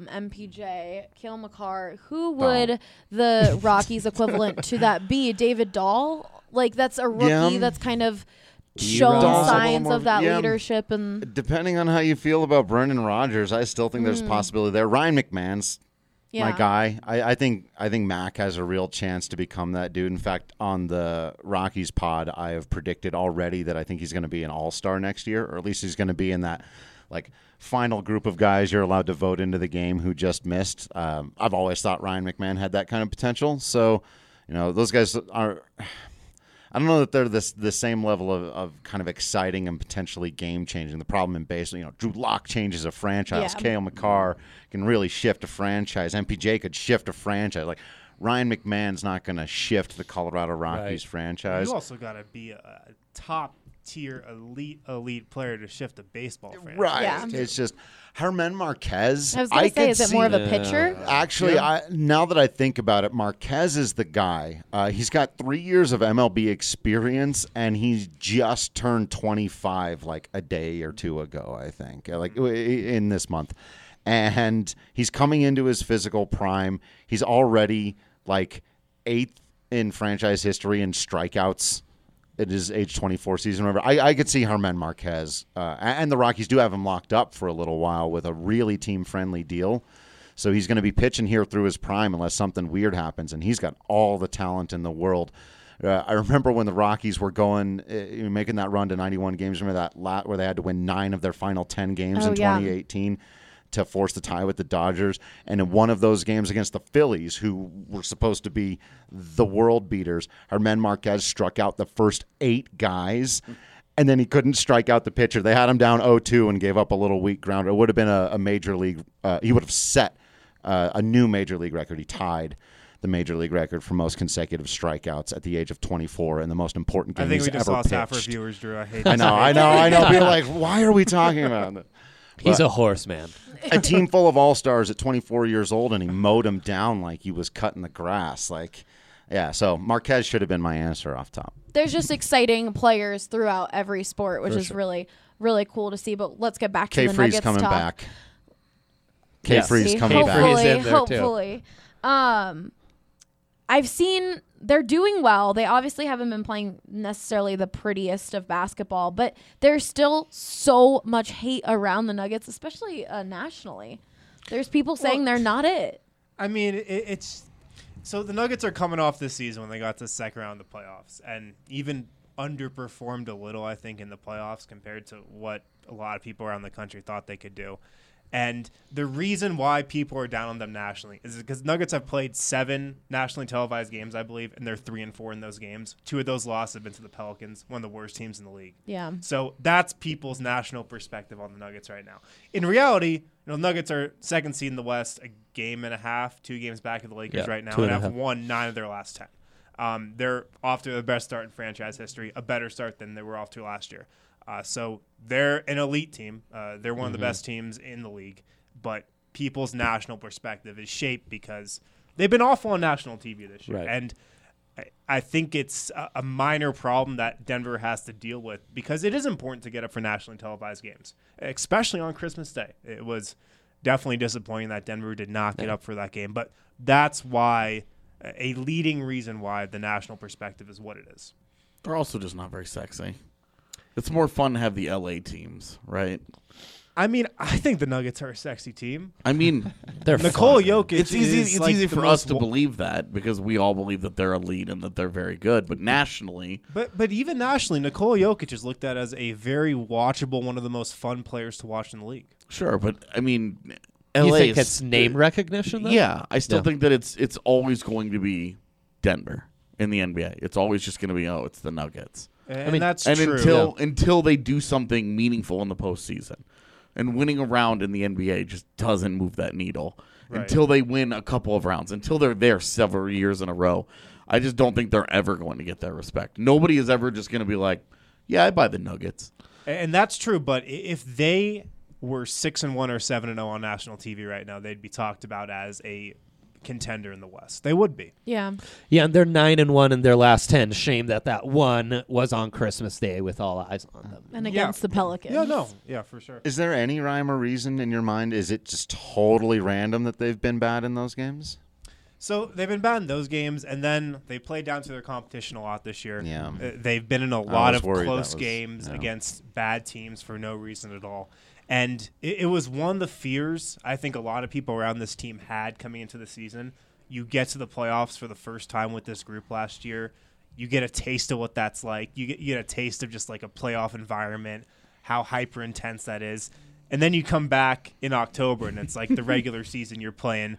A: MPJ, Cale McCarr. Who would the Rockies equivalent to that be? David Dahl? Like, that's a rookie that's kind of shown
D: Dahl's
E: a
A: signs
E: little
A: of that
E: more-
A: leadership. And
E: Depending on how you feel about Brendan Rodgers, I still think there's a possibility there. Ryan McMahon's my guy. I think Mac has a real chance to become that dude. In fact, on the Rockies pod, I have predicted already that I think he's going to be an all-star next year, or at least he's going to be in that like final group of guys you're allowed to vote into the game who just missed. I've always thought Ryan McMahon had that kind of potential. So, you know, those guys are. I don't know that they're the same level of kind of exciting and potentially game changing. The problem in baseball, you know, Drew Lock changes a franchise.
A: Yeah.
E: Cale McCarr can really shift a franchise. MPJ could shift a franchise. Like Ryan McMahon's not going to shift the Colorado Rockies franchise.
B: You also got to be a top-tier, elite player to shift a baseball franchise.
E: Right.
A: Yeah.
E: It's just Herman Marquez.
A: I was going to say,
E: could
A: is it more of a
E: see-
A: pitcher?
E: Actually, now that I think about it, Marquez is the guy. He's got 3 years of MLB experience, and he's just turned 25 like a day or two ago, I think, like in this month. And he's coming into his physical prime. He's already like 8th in franchise history in strikeouts. It is age 24 season. Remember, I could see Herman Marquez, and the Rockies do have him locked up for a little while with a really team-friendly deal. So he's going to be pitching here through his prime unless something weird happens, and he's got all the talent in the world. I remember when the Rockies were going, making that run to 91 games. Remember that where they had to win 9 of their final 10 games in 2018 to force the tie with the Dodgers. And in one of those games against the Phillies, who were supposed to be the world beaters, Herman Marquez struck out the first 8 guys, and then he couldn't strike out the pitcher. They had him down 0-2 and gave up a little weak grounder. It would have been a major league. He would have set a new major league record. He tied the major league record for most consecutive strikeouts at the age of 24 in the most important game
B: I think
E: he's
B: we just
E: ever
B: lost half our
E: pitched.
B: viewers, Drew. I hate
E: I know. People are like, why are we talking about it?
D: He's a horse, man.
E: A team full of all-stars at 24 years old, and he mowed him down like he was cutting the grass. Like, yeah, so Marquez should have been my answer off top.
A: There's just exciting players throughout every sport, which is really, really cool to see. But let's get back to the
E: K-Free's
A: Nuggets
E: coming
A: talk.
E: back.
D: Yes.
E: K-Free's coming
D: K-Free's
E: back.
D: in there, too.
A: Hopefully. I've seen they're doing well. They obviously haven't been playing necessarily the prettiest of basketball, but there's still so much hate around the Nuggets, especially nationally. There's people saying they're not it.
B: I mean, it's so the Nuggets are coming off this season when they got to the second round of the playoffs and even underperformed a little, I think, in the playoffs compared to what a lot of people around the country thought they could do. And the reason why people are down on them nationally is because Nuggets have played 7 nationally televised games, I believe, and they're 3-4 in those games. 2 of those losses have been to the Pelicans, one of the worst teams in the league.
A: Yeah.
B: So that's people's national perspective on the Nuggets right now. In reality, Nuggets are second seed in the West, a game and a half, 2 games back of the Lakers right now, and have won 9 of their last 10. They're off to the best start in franchise history, a better start than they were off to last year. So they're an elite team. They're one of the best teams in the league. But people's national perspective is shaped because they've been awful on national TV this year.
D: Right.
B: And I think it's a minor problem that Denver has to deal with because it is important to get up for nationally televised games, especially on Christmas Day. It was definitely disappointing that Denver did not get up for that game. But that's why a leading reason why the national perspective is what it is.
C: They're also just not very sexy. It's more fun to have the LA teams, right?
B: I mean, I think the Nuggets are a sexy team.
C: I mean,
D: They're
B: Nikola
D: fun.
B: Jokic
C: it's easy.
B: is
C: It's
B: like
C: easy
B: the
C: for us
B: most
C: to believe that because we all believe that they're elite and that they're very good. But nationally,
B: But even nationally, Nikola Jokic is looked at as a very watchable, one of the most fun players to watch in the league.
C: sure. But I mean, LA
D: You think
C: is-
D: it's name recognition, though?
C: Yeah, I still
D: Yeah.
C: think that it's always going to be Denver in the NBA. It's always just going to be it's the Nuggets.
B: And
D: mean,
B: that's
C: And
B: true.
C: until they do something meaningful in the postseason, and winning a round in the NBA just doesn't move that needle.
B: Right.
C: Until they win a couple of rounds, until they're there several years in a row, I just don't think they're ever going to get that respect. Nobody is ever just going to be like, "Yeah, I buy the Nuggets."
B: And that's true, but if they were 6-1 or 7-0 on national TV right now, they'd be talked about as a contender in the West. They would be.
A: Yeah.
D: Yeah, and they're 9-1 in their last 10. Shame that one was on Christmas Day with all eyes on them.
A: And against the Pelicans.
B: Yeah, for sure.
E: Is there any rhyme or reason in your mind? Is it just totally random that they've been bad in those games?
B: So they've been bad in those games, and then they played down to their competition a lot this year.
E: Yeah.
B: They've been in a lot
E: was
B: of
E: worried
B: close
E: that was-
B: games
E: yeah.
B: against bad teams for no reason at all. And it was one of the fears I think a lot of people around this team had coming into the season. You get to the playoffs for the first time with this group last year. You get a taste of what that's like. You get a taste of just like a playoff environment, how hyper intense that is. And then you come back in October, and it's like the regular season you're playing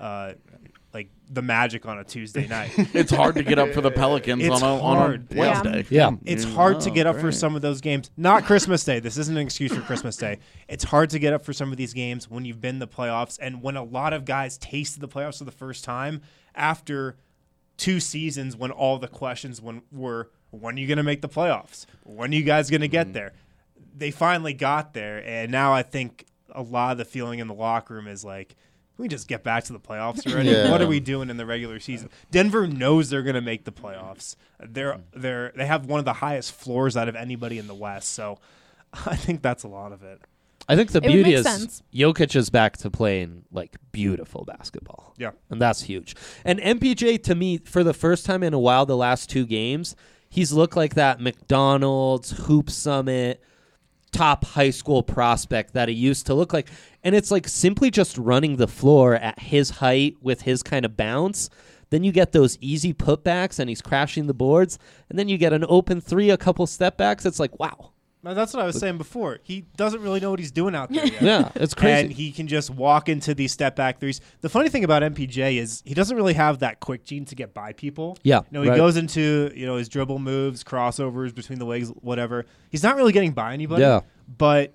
B: like the Magic on a Tuesday night.
C: It's hard to get up for the Pelicans
B: It's
C: on a
B: hard.
C: Wednesday.
D: Yeah.
B: It's hard to get up for some of those games. Not Christmas Day. This isn't an excuse for Christmas Day. It's hard to get up for some of these games when you've been in the playoffs and when a lot of guys tasted the playoffs for the first time after 2 seasons when all the questions were, when are you going to make the playoffs? When are you guys going to get there? They finally got there, and now I think a lot of the feeling in the locker room is like, can we just get back to the playoffs already?
E: Yeah.
B: What are we doing in the regular season? Denver knows they're going to make the playoffs. They have one of the highest floors out of anybody in the West, so I think that's a lot of it.
D: I think the
A: It would
D: beauty
A: make
D: is
A: sense.
D: Jokic is back to playing like beautiful basketball.
B: Yeah.
D: And that's huge. And MPJ, to me, for the first time in a while, the last 2 games, he's looked like that McDonald's, Hoop Summit, top high school prospect that he used to look like. And it's like simply just running the floor at his height with his kind of bounce. Then you get those easy putbacks and he's crashing the boards. And then you get an open 3, a couple step backs. It's like, wow.
B: Now, that's what I was saying before. He doesn't really know what he's doing out there yet.
D: Yeah, it's crazy.
B: And he can just walk into these step back threes. The funny thing about MPJ is he doesn't really have that quick gene to get by people.
D: Yeah,
B: He
D: right.
B: goes into his dribble moves, crossovers between the legs, whatever. He's not really getting by anybody.
D: Yeah.
B: But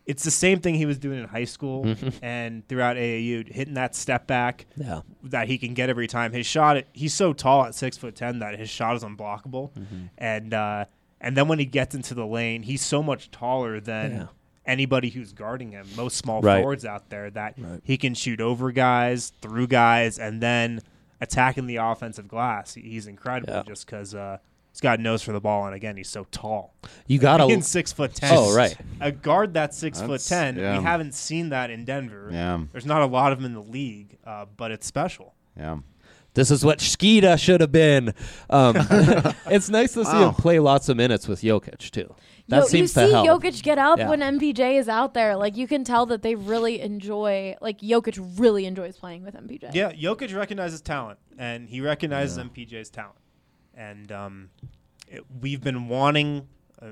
B: it's the same thing he was doing in high school and throughout AAU, hitting that step back
D: Yeah.
B: that he can get every time. His shot, he's so tall at 6'10" that his shot is unblockable, and then when he gets into the lane, he's so much taller than anybody who's guarding him. Most small forwards out there that he can shoot over guys, through guys, and then attacking the offensive glass. He's incredible just because he's got a nose for the ball, and again, he's so tall.
D: You got to
B: Being 6'10".
D: Oh, right.
B: A guard that's 6'10".
E: yeah.
B: We haven't seen that in Denver.
E: Yeah.
B: There's not a lot of them in the league, but it's special.
E: Yeah.
D: This is what Shkita should have been. It's nice to see him play lots of minutes with Jokic, too. That seems
A: you
D: to
A: see
D: help.
A: Jokic get up
D: Yeah.
A: when MPJ is out there. Like, you can tell that they really enjoy, like, Jokic really enjoys playing with MPJ.
B: Yeah, Jokic recognizes talent, and he recognizes MPJ's talent. And we've been wanting,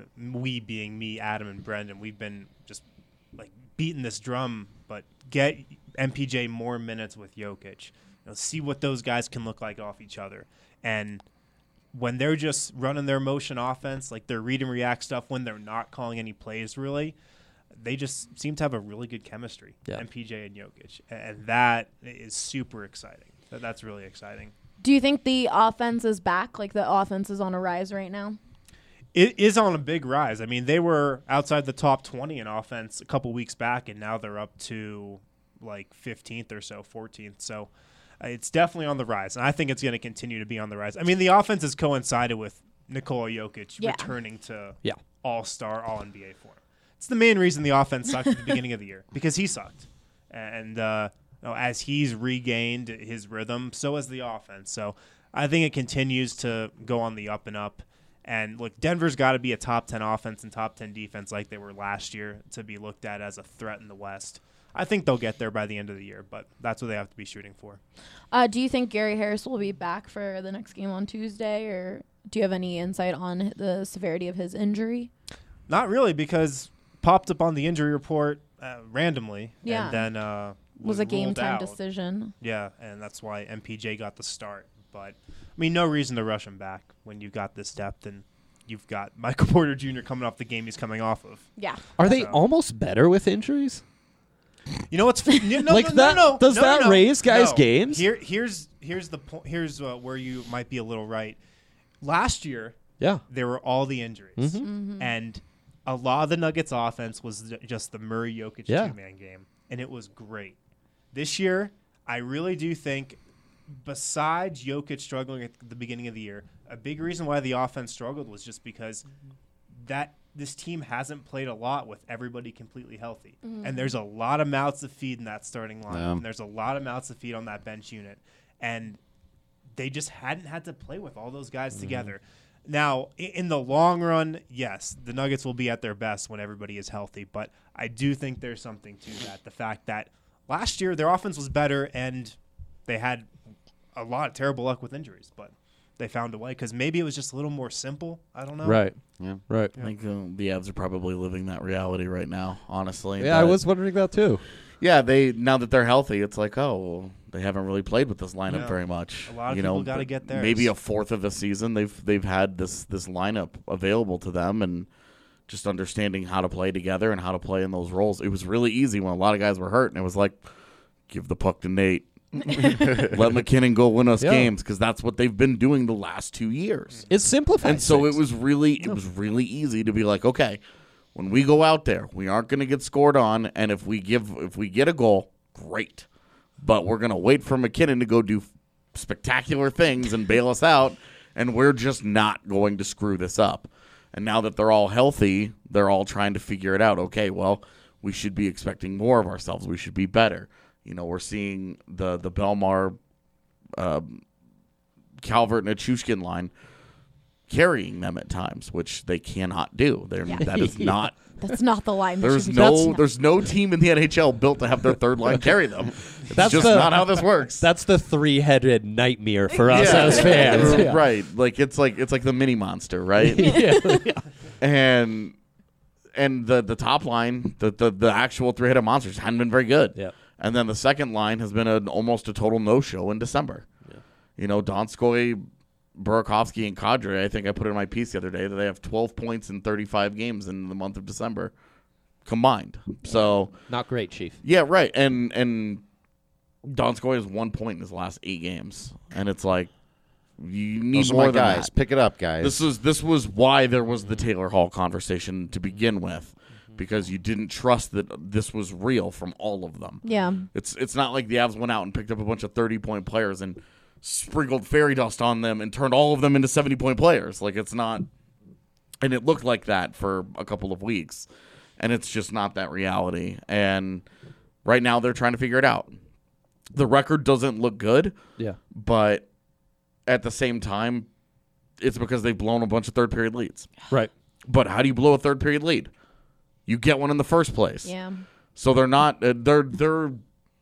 B: we being me, Adam, and Brendan, we've been just, like, beating this drum, but get MPJ more minutes with Jokic. See what those guys can look like off each other. And when they're just running their motion offense, like their read and react stuff, when they're not calling any plays really, they just seem to have a really good chemistry, MPJ and Jokic. And that is super exciting. That's really exciting.
A: Do you think the offense is back? Like, the offense is on a rise right now?
B: It is on a big rise. I mean, they were outside the top 20 in offense a couple weeks back, and now they're up to like 15th or so, 14th. So it's definitely on the rise, and I think it's going to continue to be on the rise. I mean, the offense has coincided with Nikola Jokic returning to all-star, all-NBA form. It's the main reason the offense sucked at the beginning of the year, because he sucked. And as he's regained his rhythm, so has the offense. So I think it continues to go on the up and up. And, look, Denver's got to be a top 10 offense and top 10 defense like they were last year to be looked at as a threat in the West. I think they'll get there by the end of the year, but that's what they have to be shooting for.
A: Do you think Gary Harris will be back for the next game on Tuesday, or do you have any insight on the severity of his injury?
B: Not really, because popped up on the injury report randomly,
A: Yeah.
B: and then
A: Was a game
B: ruled
A: time
B: out.
A: decision.
B: Yeah, and that's why MPJ got the start. But, I mean, no reason to rush him back when you've got this depth, and you've got Michael Porter Jr. coming off the game he's coming off of.
A: Yeah.
D: Are they
B: So-
D: almost better with injuries?
B: You know what's no,
D: Like
B: no,
D: that-
B: no, no,
D: does
B: no,
D: that
B: no,
D: raise guys'
B: no.
D: games?
B: Here's the point. Here's where you might be a little right. Last year,
D: Yeah.
B: there were all the injuries, and a lot of the Nuggets' offense was just the Murray Jokic two-man game, and it was great. This year, I really do think, besides Jokic struggling at the beginning of the year, a big reason why the offense struggled was just because this team hasn't played a lot with everybody completely healthy. And there's a lot of mouths to feed in that starting lineup.
E: Yeah.
B: And there's a lot of mouths to feed on that bench unit. And they just hadn't had to play with all those guys together. Now, in the long run, yes, the Nuggets will be at their best when everybody is healthy. But I do think there's something to that. The fact that last year their offense was better and they had a lot of terrible luck with injuries. But they found a way because maybe it was just a little more simple. I don't know.
D: Right.
E: Yeah.
D: Right.
C: I think the Avs are probably living that reality right now, honestly.
D: Yeah, I
C: But,
D: was wondering that too.
C: Yeah, now that they're healthy, it's like, oh, well, they haven't really played with this lineup
B: Yeah.
C: very much.
B: A lot of
C: you
B: people
C: know,
B: gotta
C: but
B: get theirs.
C: Maybe a fourth of the season they've had this lineup available to them, and just understanding how to play together and how to play in those roles. It was really easy when a lot of guys were hurt, and it was like, give the puck to Nate. Let McKinnon go win us
D: Yeah.
C: games, because that's what they've been doing the last 2 years.
D: It simplifies.
C: And so
D: things.
C: it was really easy to be like, okay, when we go out there, we aren't going to get scored on, and if we get a goal, great. But we're going to wait for McKinnon to go do spectacular things and bail us out, and we're just not going to screw this up. And now that they're all healthy, they're all trying to figure it out. Okay, well, we should be expecting more of ourselves. We should be better. You know, we're seeing the Belmar, Calvert, and Achushkin line carrying them at times, which they cannot do. That is not.
A: That's not the line. that
C: There's
A: should be-
C: there's no team in the NHL built to have their third line carry them. It's
D: That's
C: just
D: the-
C: not how this works.
D: That's the three-headed nightmare for us as fans. Yeah.
C: Right? Like it's like the mini monster, right?
D: Yeah.
C: And the top line, the actual three-headed monsters hadn't been very good.
D: Yeah.
C: And then the second line has been almost a total no-show in December. Yeah. You know, Donskoy, Burakovsky, and Kadri, I think I put it in my piece the other day that they have 12 points in 35 games in the month of December. combined. So
D: Not great, Chief.
C: yeah, right. And Donskoy has 1 point in his last 8 games, and it's like you need
E: Those are
C: more
E: my
C: than
E: guys.
C: that.
E: Pick it up, guys.
C: This was why there was the Taylor Hall conversation to begin with, because you didn't trust that this was real from all of them.
A: Yeah.
C: It's not like the Avs went out and picked up a bunch of 30-point players and sprinkled fairy dust on them and turned all of them into 70-point players. Like, it's not, and it looked like that for a couple of weeks, and it's just not that reality. And right now they're trying to figure it out. The record doesn't look good,
D: Yeah.
C: but at the same time, it's because they've blown a bunch of third-period leads.
D: Right.
C: But how do you blow a third-period lead? You get one in the first place.
A: Yeah.
C: So they're not they're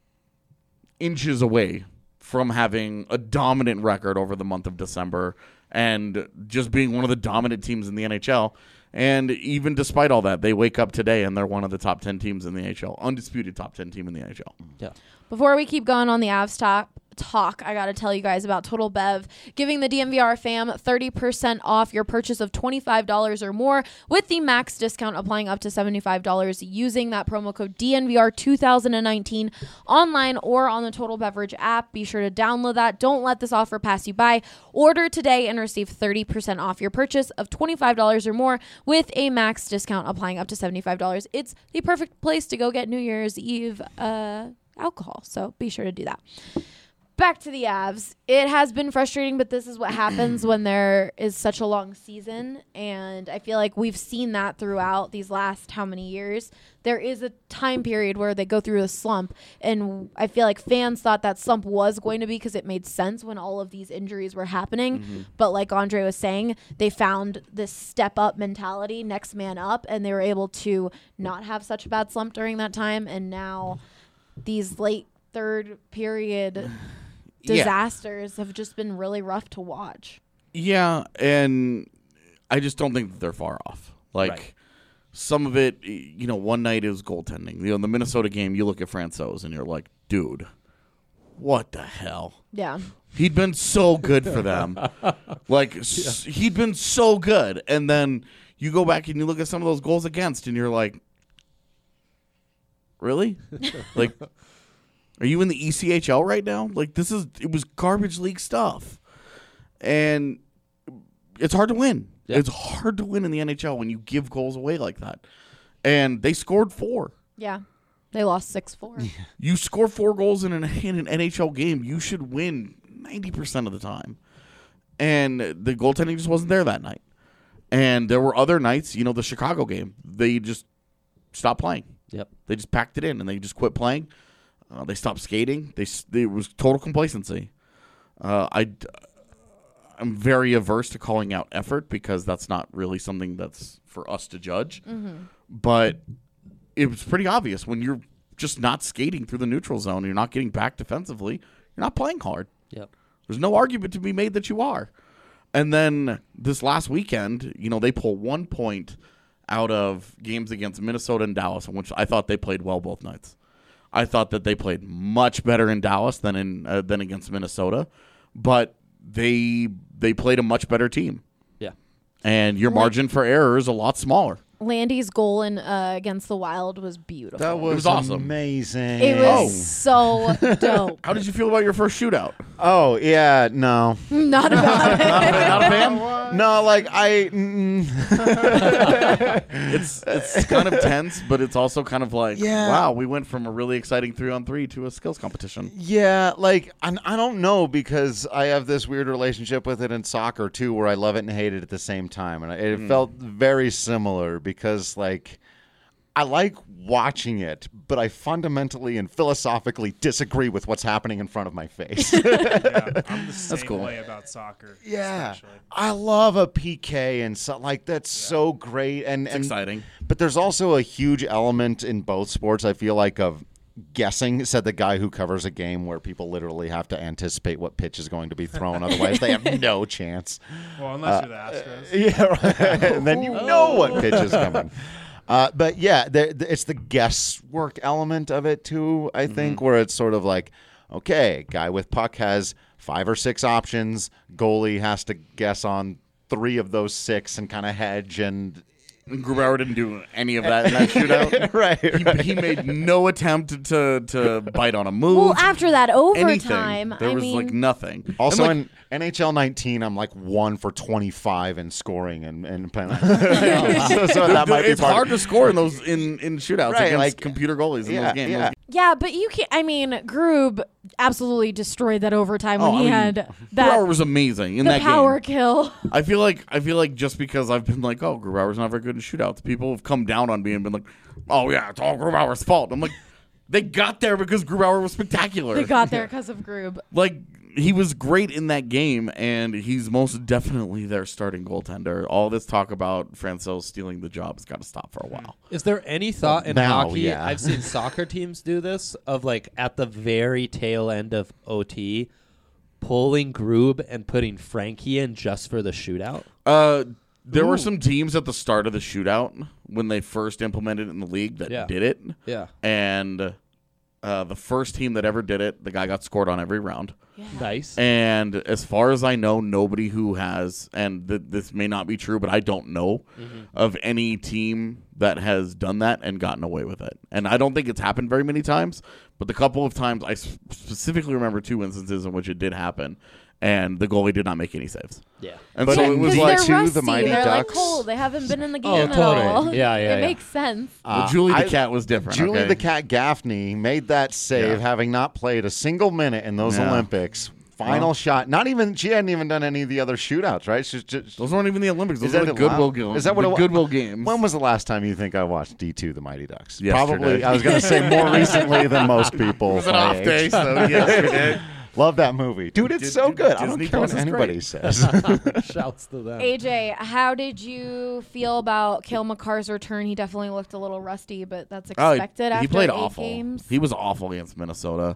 C: inches away from having a dominant record over the month of December and just being one of the dominant teams in the NHL. And even despite all that, they wake up today and they're one of the top 10 teams in the NHL, undisputed top 10 team in the NHL.
D: Yeah.
A: Before we keep going on the Avs talk, I got to tell you guys about Total Bev, giving the DMVR fam 30% off your purchase of $25 or more with the max discount applying up to $75 using that promo code DNVR 2019 online or on the Total Beverage app. Be sure to download that. Don't let this offer pass you by. Order today and receive 30% off your purchase of $25 or more with a max discount applying up to $75. It's the perfect place to go get New Year's Eve alcohol, so be sure to do that. Back to the Avs. It has been frustrating, but this is what happens when there is such a long season, and I feel like we've seen that throughout these last how many years. There is a time period where they go through a slump, and I feel like fans thought that slump was going to be because it made sense when all of these injuries were happening. But like Andre was saying, they found this step-up mentality, next man up, and they were able to not have such a bad slump during that time, and now these late third period disasters have just been really rough to watch.
C: Yeah, and I just don't think that they're far off. Like,
D: Right.
C: some of it, one night is goaltending. The Minnesota game, you look at Francouz and you're like, dude, what the hell?
A: Yeah.
C: He'd been so good for them. He'd been so good. And then you go back and you look at some of those goals against and you're like, really? Like, are you in the ECHL right now? Like, it was garbage league stuff. And it's hard to win.
D: Yeah.
C: It's hard to win in the NHL when you give goals away like that. And they scored 4.
A: Yeah. They lost 6-4.
C: You score 4 goals in an NHL game, you should win 90% of the time. And the goaltending just wasn't there that night. And there were other nights, the Chicago game, they just stopped playing.
D: Yep.
C: They just packed it in and they just quit playing. They stopped skating. It was total complacency. I'm very averse to calling out effort because that's not really something that's for us to judge.
A: Mm-hmm.
C: But it was pretty obvious when you're just not skating through the neutral zone, you're not getting back defensively, you're not playing hard.
D: Yep.
C: There's no argument to be made that you are. And then this last weekend, they pull 1 point out of games against Minnesota and Dallas, in which I thought they played well both nights. I thought that they played much better in Dallas than against Minnesota, but they played a much better team.
D: Yeah.
C: And your margin for error is a lot smaller.
A: Landy's goal against the Wild was beautiful.
E: That was
C: awesome.
E: amazing.
A: It was so dope.
C: How did you feel about your first shootout?
E: Oh, yeah, no.
A: Not about it.
C: Not a fan?
E: No, like
C: It's kind of tense, but it's also kind of like,
E: Yeah.
C: wow, we went from a really exciting 3-on-3 to a skills competition.
E: Yeah, like I don't know because I have this weird relationship with it in soccer too, where I love it and hate it at the same time, and it felt very similar because like I like watching it, but I fundamentally and philosophically disagree with what's happening in front of my face.
B: Yeah, I'm the same
C: cool.
B: way about soccer.
E: Yeah,
B: especially.
E: I love a PK and so like that's so great and
C: Exciting.
E: But there's also a huge element in both sports, I feel like, of guessing, said the guy who covers a game where people literally have to anticipate what pitch is going to be thrown. Otherwise, they have no chance.
B: Well, unless you're the Astros.
E: Yeah, right. And then you know what pitch is coming. But yeah, it's the guesswork element of it too, I think, where it's sort of like, okay, guy with puck has 5 or 6 options. Goalie has to guess on 3 of those 6 and kind of hedge. And
C: And Grubauer didn't do any of that in that shootout.
E: Right.
C: He made no attempt to bite on a move.
A: Well, after that
C: anything.
A: overtime,
C: There
A: I
C: was
A: mean,
C: like nothing.
E: Also
C: And,
E: in NHL 19, I'm like 1 for 25 in scoring and penalties. so that might be
C: it's
E: part
C: hard
E: of
C: to score in those in shootouts
E: Right,
C: against
E: like,
C: computer goalies in those games.
E: yeah.
A: yeah, but you can't. I mean, Grub absolutely destroyed that overtime when
C: Oh, I
A: he
C: mean,
A: had
C: Grubauer
A: that
C: was amazing in
A: the
C: that
A: power
C: game.
A: kill.
C: I feel like just because I've been like, oh, Grubauer's not very good in shootouts, people have come down on me and been like, oh yeah, it's all Grubauer's fault. I'm like, they got there because Grubauer was spectacular.
A: They got there because of Grub.
C: Like, he was great in that game, and he's most definitely their starting goaltender. All this talk about Francouz stealing the job has got to stop for a while.
D: Is there any thought in
E: now,
D: hockey?
E: yeah.
D: I've seen soccer teams do this of like at the very tail end of OT, pulling Grub and putting Frankie in just for the shootout.
C: There were some teams at the start of the shootout when they first implemented it in the league that
D: Yeah.
C: did it.
D: Yeah.
C: And the first team that ever did it, the guy got scored on every round.
D: Nice.
C: And as far as I know, nobody who has, and this may not be true, but I don't know of any team that has done that and gotten away with it. And I don't think it's happened very many times, but the couple of times I specifically remember 2 instances in which it did happen, and the goalie did not make any saves.
D: Yeah.
C: And
E: But
C: so it was like,
A: they're
E: D2,
A: rusty.
E: the Mighty
A: They're like
E: Ducks.
A: cold. They haven't been in the
D: Oh,
A: game at
D: totally.
A: all.
D: Yeah, yeah,
A: It
D: yeah.
A: makes sense.
C: well, Julie
E: I-
C: the Cat was different.
E: Julie
C: okay?
E: the Cat Gaffney made that save,
C: Yeah.
E: having not played a single minute in those
C: Yeah.
E: Olympics. Final shot. She hadn't even done any of the other shootouts, right? She's just.
C: Those weren't even the Olympics. Those
E: Is
C: were
E: that
C: the
E: allowed?
C: Goodwill games.
E: Is that what
C: the
E: it wa-
C: Goodwill games?
E: When was the last time you think I watched D2, the Mighty Ducks?
C: Yesterday.
E: Probably. I was going to say more recently than most people.
C: It was an
E: my
C: off
E: age.
C: day, so yesterday.
E: Love that movie, dude. It's so
C: Dude,
E: good. I
C: Disney
E: don't care what
C: Plus is
E: anybody
C: great.
E: says.
D: Shouts to them.
A: AJ, how did you feel about Cale Makar's return? He definitely looked a little rusty, but that's expected after
C: he played
A: 8
C: awful.
A: games.
C: He was awful against Minnesota.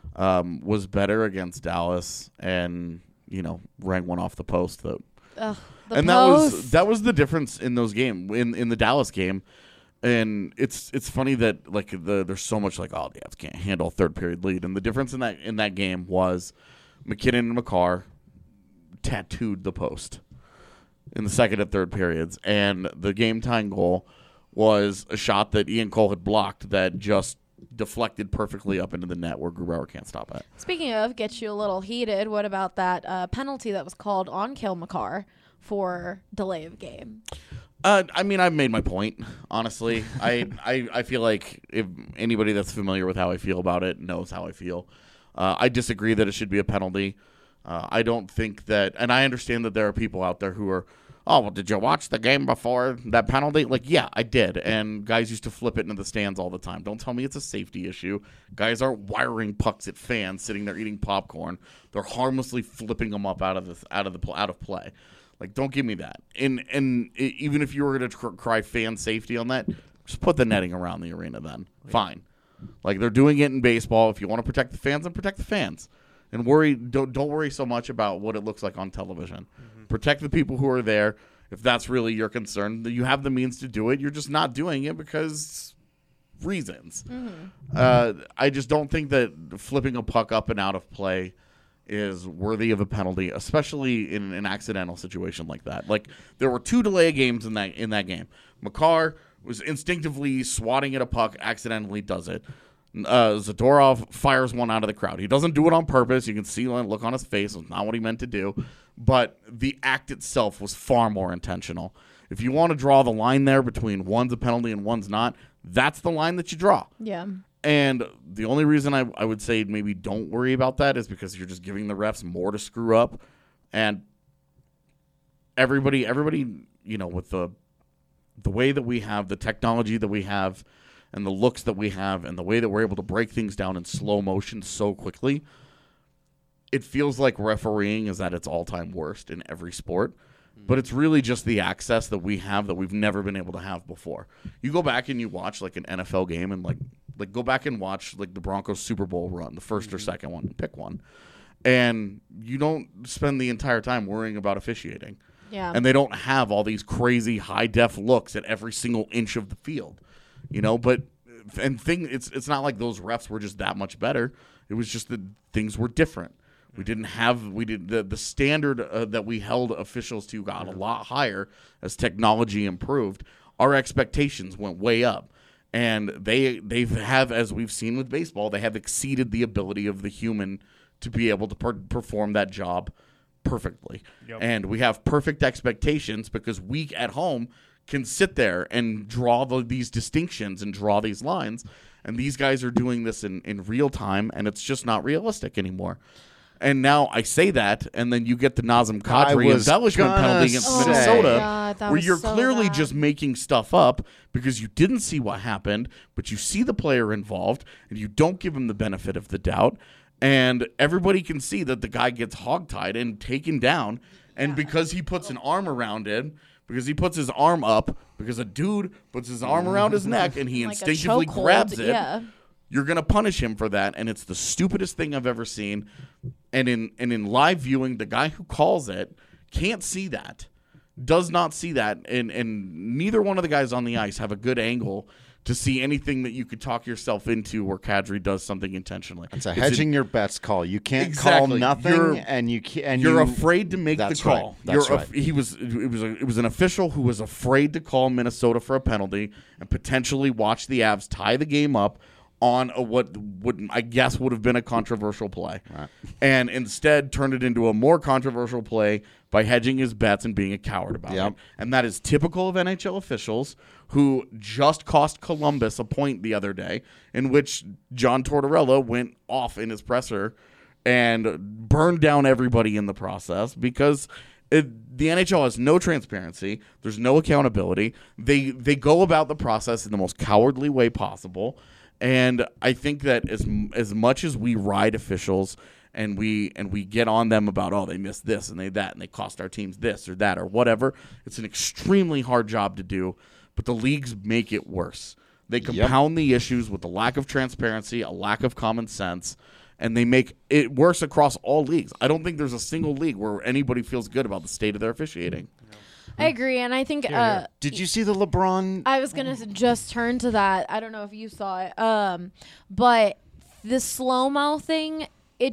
C: Was better against Dallas, and rang one off the post.
A: The
C: And
A: post.
C: that was the difference in those games in the Dallas game. And it's funny that there's so much the Avs can't handle a third period lead, and the difference in that game was McKinnon and Makar tattooed the post in the second and third periods, and the game tying goal was a shot that Ian Cole had blocked that just deflected perfectly up into the net where Grubauer can't stop it.
A: Speaking of gets you a little heated, what about that penalty that was called on Cale Makar for delay of game?
C: I mean, I've made my point, honestly. I feel like if anybody that's familiar with how I feel about it knows how I feel. I disagree that it should be a penalty. I don't think that, and I understand that there are people out there who are, oh, well, did you watch the game before that penalty? Yeah, I did. And guys used to flip it into the stands all the time. Don't tell me it's a safety issue. Guys aren't wiring pucks at fans sitting there eating popcorn. They're harmlessly flipping them up out of play. Don't give me that. And even if you were going to cry fan safety on that, just put the netting around the arena then. Fine. They're doing it in baseball. If you want to protect the fans, then protect the fans. And don't worry so much about what it looks like on television. Mm-hmm. Protect the people who are there. If that's really your concern, you have the means to do it. You're just not doing it because reasons. Mm-hmm. I just don't think that flipping a puck up and out of play is worthy of a penalty, especially in an accidental situation like that. There were 2 delay games in that game. Makar was instinctively swatting at a puck, accidentally does it. Zadorov fires one out of the crowd. He doesn't do it on purpose. You can see the look on his face. It's not what he meant to do. But the act itself was far more intentional. If you want to draw the line there between one's a penalty and one's not, that's the line that you draw.
A: Yeah.
C: And the only reason I would say maybe don't worry about that is because you're just giving the refs more to screw up. And everybody, with the way that we have, the technology that we have, and the looks that we have, and the way that we're able to break things down in slow motion so quickly, it feels like refereeing is at its all-time worst in every sport. But it's really just the access that we have that we've never been able to have before. You go back and you watch an NFL game and go back and watch the Broncos Super Bowl run, the first or second one, pick one. And you don't spend the entire time worrying about officiating.
A: Yeah.
C: And they don't have all these crazy high-def looks at every single inch of the field. It's not like those refs were just that much better. It was just that things were different. The standard that we held officials to got a lot higher as technology improved. our expectations went way up. And they have, as we've seen with baseball, they have exceeded the ability of the human to be able to perform that job perfectly.
B: Yep.
C: And we have perfect expectations because we at home can sit there and draw these distinctions and draw these lines. And these guys are doing this in real time, and it's just not realistic anymore. And now I say that, and then you get the Nazem Kadri
E: was
C: embellishment
E: gonna
C: penalty against
E: say.
C: Minnesota,
A: Oh my God, that
C: where
A: was
C: you're
A: so
C: clearly
A: bad.
C: just making stuff up because you didn't see what happened, but you see the player involved, and you don't give him the benefit of the doubt. And everybody can see that the guy gets hogtied and taken down, and because he puts an arm around it, because he puts his arm up, because a dude puts his arm around his neck and he
A: Like a
C: instinctively
A: chokehold,
C: grabs it,
A: yeah.
C: you're going to punish him for that, and it's the stupidest thing I've ever seen. And in live viewing, the guy who calls it can't see that, does not see that, and neither one of the guys on the ice have a good angle to see anything that you could talk yourself into where Kadri does something intentionally.
E: It's a hedging your bets call. You can't
C: Exactly.
E: call nothing,
C: You're-
E: and you can't.
C: You're afraid to make the
E: That's
C: call.
E: right. That's
C: You're
E: right.
C: It was an official who was afraid to call Minnesota for a penalty and potentially watch the Avs tie the game up on what would I guess would have been a controversial play, and instead turned it into a more controversial play by hedging his bets and being a coward about
E: Yep.
C: it. And that is typical of NHL officials who just cost Columbus a point the other day, in which John Tortorella went off in his presser and burned down everybody in the process because the NHL has no transparency. There's no accountability. They go about the process in the most cowardly way possible. And I think that as much as we ride officials and we get on them about, they missed this and they that and they cost our teams this or that or whatever, it's an extremely hard job to do. But the leagues make it worse. They compound the issues with the lack of transparency, a lack of common sense, and they make it worse across all leagues. I don't think there's a single league where anybody feels good about the state of their officiating.
A: I agree, and I think
E: Did you see the LeBron?
A: I was gonna just turn to that. I don't know if you saw it, but the slow-mo thing,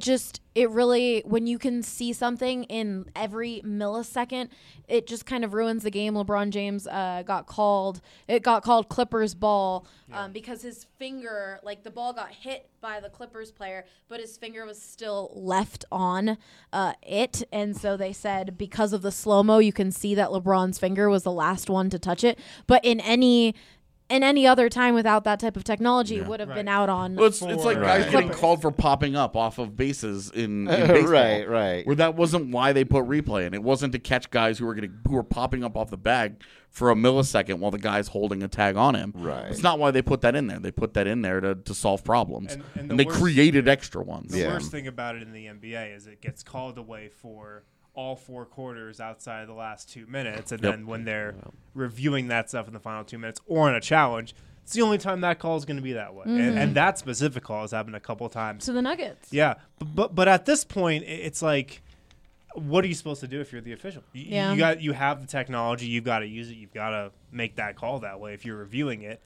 A: it really, when you can see something in every millisecond, it just kind of ruins the game. LeBron James got called Clippers ball because his finger, like the ball got hit by the Clippers player, but his finger was still left on it. And so they said because of the slow-mo, you can see that LeBron's finger was the last one to touch it. But in any other time without that type of technology, it would have been out on.
C: Well, it's like guys
E: Right.
C: getting called for popping up off of bases in baseball.
E: Right.
C: Where that wasn't why they put replay in. It wasn't to catch guys who were popping up off the bag for a millisecond while the guy's holding a tag on him.
E: Right.
C: It's not why they put that in there. They put that in there to solve problems.
B: And
C: And
B: the
C: they
B: worst-
C: created extra ones.
B: The
E: Yeah.
B: worst thing about it in the NBA is it gets called away for all four quarters outside of the last 2 minutes, and
C: Yep.
B: then when they're reviewing that stuff in the final 2 minutes or in a challenge, it's the only time that call is going to be that way. And that specific call has happened a couple of times.
A: to the Nuggets.
B: Yeah, but at this point, it's like, what are you supposed to do if you're the official?
A: Yeah.
B: You have the technology, you've got to use it, you've got to make that call that way. If you're reviewing it,